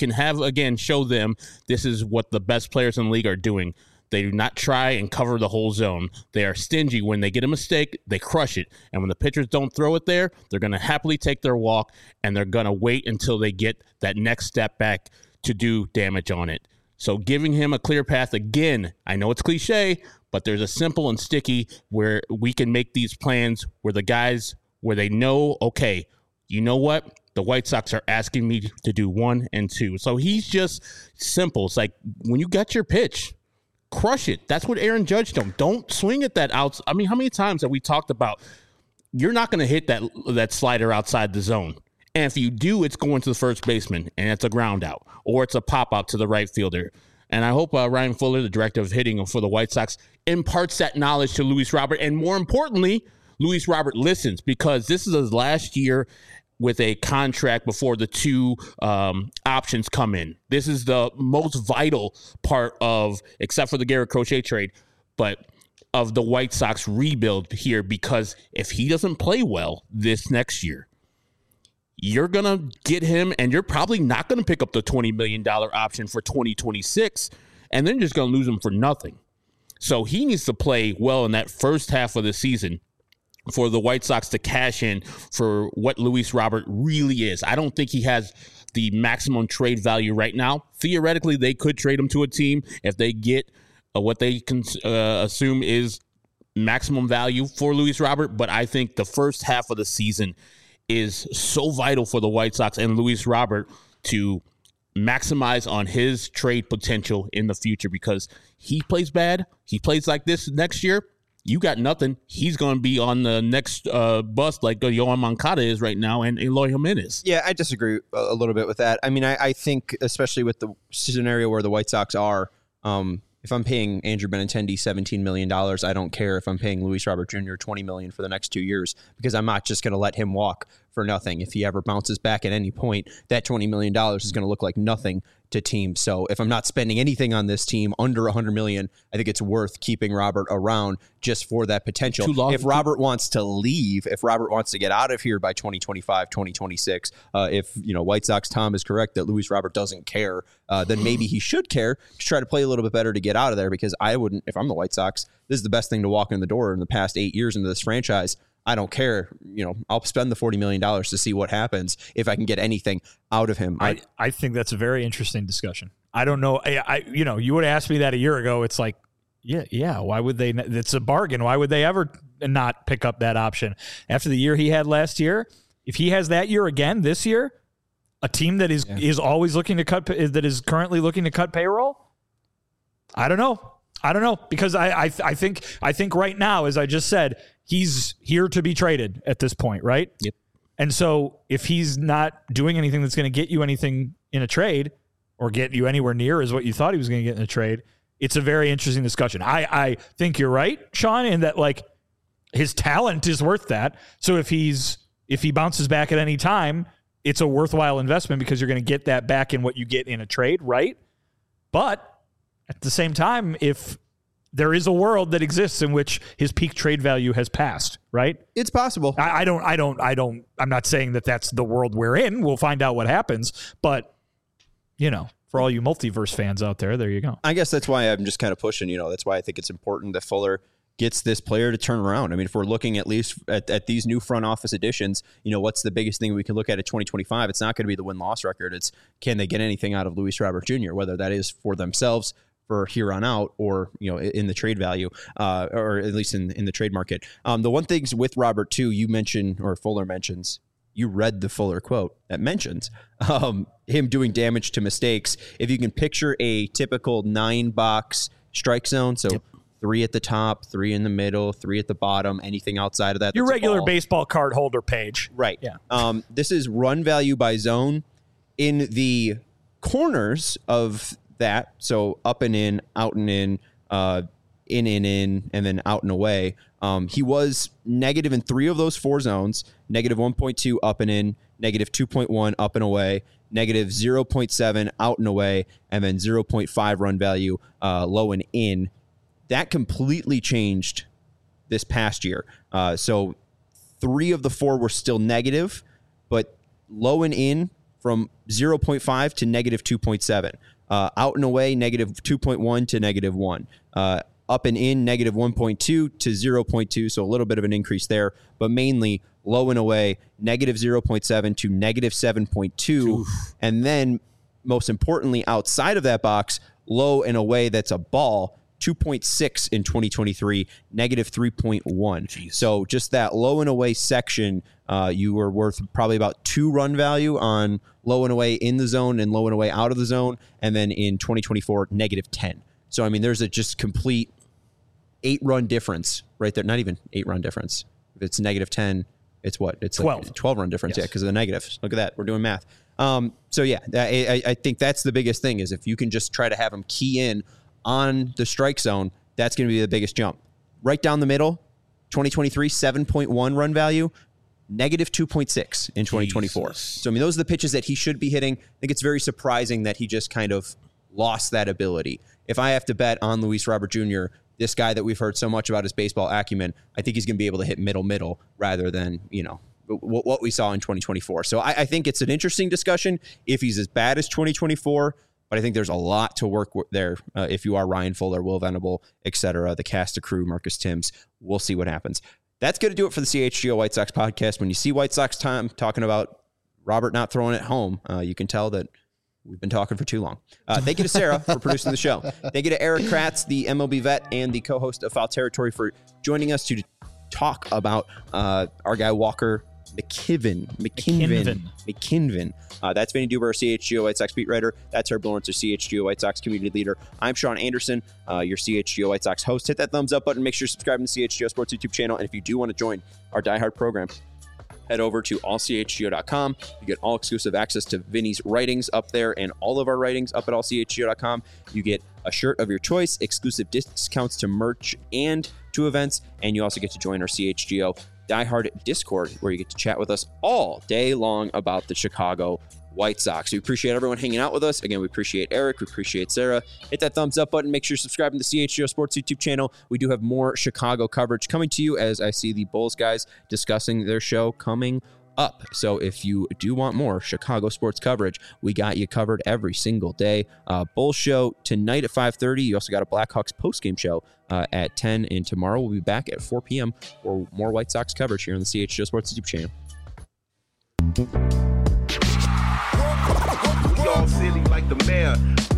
Speaker 2: this is what the best players in the league are doing. They do not try and cover the whole zone. They are stingy. When they get a mistake, they crush it. And when the pitchers don't throw it there, they're going to happily take their walk, and they're going to wait until they get that next step back to do damage on it. So giving him a clear path, again, I know it's cliche, but there's a simple and sticky where we can make these plans where the guys, where they know, okay, you know what? The White Sox are asking me to do 1 and 2. So he's just simple. It's like when you got your pitch, crush it. That's what Aaron Judge don't swing at that out. I mean, how many times have we talked about you're not going to hit that slider outside the zone? And if you do, it's going to the first baseman, and it's a ground out, or it's a pop out to the right fielder. And I hope Ryan Fuller, the director of hitting for the White Sox, imparts that knowledge to Luis Robert. And more importantly, Luis Robert listens, because this is his last year with a contract before the 2 options come in. This is the most vital part of, except for the Garrett Crochet trade, but of the White Sox rebuild here, because if he doesn't play well this next year, you're going to get him, and you're probably not going to pick up the $20 million option for 2026, and then just going to lose him for nothing. So he needs to play well in that first half of the season for the White Sox to cash in for what Luis Robert really is. I don't think he has the maximum trade value right now. Theoretically, they could trade him to a team if they get what they can assume is maximum value for Luis Robert, but I think the first half of the season is so vital for the White Sox and Luis Robert to maximize on his trade potential in the future, because he plays bad. He plays like this next year. You got nothing. He's going to be on the next bus like Yohan Moncada is right now, and Eloy Jimenez.
Speaker 1: Yeah, I disagree a little bit with that. I mean, I think, especially with the scenario where the White Sox are, if I'm paying Andrew Benintendi $17 million, I don't care if I'm paying Luis Robert Jr. $20 million for the next 2 years, because I'm not just going to let him walk for nothing. If he ever bounces back at any point, that $20 million is going to look like nothing to teams. So if I'm not spending anything on this team under $100 million, I think it's worth keeping Robert around just for that potential. If Robert wants to leave, if Robert wants to get out of here by 2025, 2026, if White Sox Tom is correct that Luis Robert doesn't care, then maybe he should care to try to play a little bit better to get out of there, because I wouldn't, if I'm the White Sox, this is the best thing to walk in the door in the past 8 years into this franchise. I don't care. I'll spend the $40 million to see what happens if I can get anything out of him.
Speaker 4: I think that's a very interesting discussion. I don't know. You would have asked me that a year ago. It's like, yeah. Why would they? It's a bargain. Why would they ever not pick up that option after the year he had last year? If he has that year again this year, a team that is always looking to cut, that is currently looking to cut payroll. I don't know, because I think right now, as I just said, he's here to be traded at this point, right?
Speaker 2: Yep.
Speaker 4: And so if he's not doing anything that's going to get you anything in a trade, or get you anywhere near as what you thought he was going to get in a trade, it's a very interesting discussion. I think you're right, Sean, in that like his talent is worth that. So if he bounces back at any time, it's a worthwhile investment because you're going to get that back in what you get in a trade, right? But at the same time, if there is a world that exists in which his peak trade value has passed, right?
Speaker 1: It's possible.
Speaker 4: I'm not saying that that's the world we're in. We'll find out what happens, but for all you multiverse fans out there, there you go.
Speaker 1: I guess that's why I'm just kind of pushing, that's why I think it's important that Fuller gets this player to turn around. I mean, if we're looking at least at these new front office additions, what's the biggest thing we can look at 2025? It's not going to be the win-loss record. It's can they get anything out of Luis Robert Jr., whether that is for themselves for here on out or, in the trade value or at least in the trade market. The one things with Robert too, you mentioned or Fuller mentions, you read the Fuller quote that mentions him doing damage to mistakes. If you can picture a typical 9-box strike zone, so 3 at the top, 3 in the middle, 3 at the bottom, anything outside of that.
Speaker 4: Your regular baseball card holder page.
Speaker 1: Right.
Speaker 4: Yeah.
Speaker 1: This is run value by zone. In the corners of that, so up and in, out and in, in, and then out and away. He was negative in 3 of those 4 zones, negative 1.2 up and in, negative 2.1 up and away, negative 0.7 out and away, and then 0.5 run value low and in. That completely changed this past year. So 3 of the 4 were still negative, but low and in from 0.5 to negative 2.7. Out and away, negative 2.1 to negative 1. Up and in, negative 1.2 to 0.2, so a little bit of an increase there, but mainly low and away, negative 0.7 to negative 7.2. And then, most importantly, outside of that box, low and away, that's a ball, 2.6 in 2023, negative 3.1. So just that low and away section, you were worth probably about 2 run value on low and away in the zone and low and away out of the zone. And then in 2024, negative 10. So, I mean, there's a just complete 8-run difference right there. Not even 8-run difference. If it's negative 10, it's what? It's
Speaker 4: 12.
Speaker 1: Like 12-run difference, yes. Because of the negatives. Look at that. We're doing math. So, yeah, I think that's the biggest thing is if you can just try to have them key in on the strike zone, that's going to be the biggest jump. Right down the middle, 2023, 7.1 run value, negative 2.6 in 2024. Jesus. So, I mean, those are the pitches that he should be hitting. I think it's very surprising that he just kind of lost that ability. If I have to bet on Luis Robert Jr., this guy that we've heard so much about his baseball acumen, I think he's going to be able to hit middle rather than, what we saw in 2024. So I think it's an interesting discussion if he's as bad as 2024, but I think there's a lot to work with there if you are Ryan Fuller, Will Venable, etc., the cast of crew, Marcus Timms. We'll see what happens. That's going to do it for the CHGO White Sox podcast. When you see White Sox time talking about Robert not throwing it home, you can tell that we've been talking for too long. Thank you to Sarah for producing the show. Thank you to Eric Kratz, the MLB vet and the co-host of Foul Territory, for joining us to talk about our guy Walker McKinven. That's Vinny Duber, our CHGO White Sox beat writer. That's Herb Lawrence, our CHGO White Sox community leader. I'm Sean Anderson, your CHGO White Sox host. Hit that thumbs up button. Make ssure you're subscribing to the CHGO Sports YouTube channel. And if you do want to join our diehard program, head over to allchgo.com. You get all exclusive access to Vinny's writings up there and all of our writings up at allchgo.com. You get a shirt of your choice, exclusive discounts to merch and to events, and you also get to join our CHGO diehard Discord, where you get to chat with us all day long about the Chicago White Sox. We appreciate everyone hanging out with us. Again, we appreciate Eric. We appreciate Sarah. Hit that thumbs up button. Make sure you're subscribing to the CHGO Sports YouTube channel. We do have more Chicago coverage coming to you as I see the Bulls guys discussing their show coming up. So if you do want more Chicago sports coverage, we got you covered every single day. Bulls show tonight at 5:30. You also got a Blackhawks postgame show at 10. And tomorrow we'll be back at 4 p.m. for more White Sox coverage here on the CHGO Sports YouTube channel.
Speaker 3: We all silly like the mayor.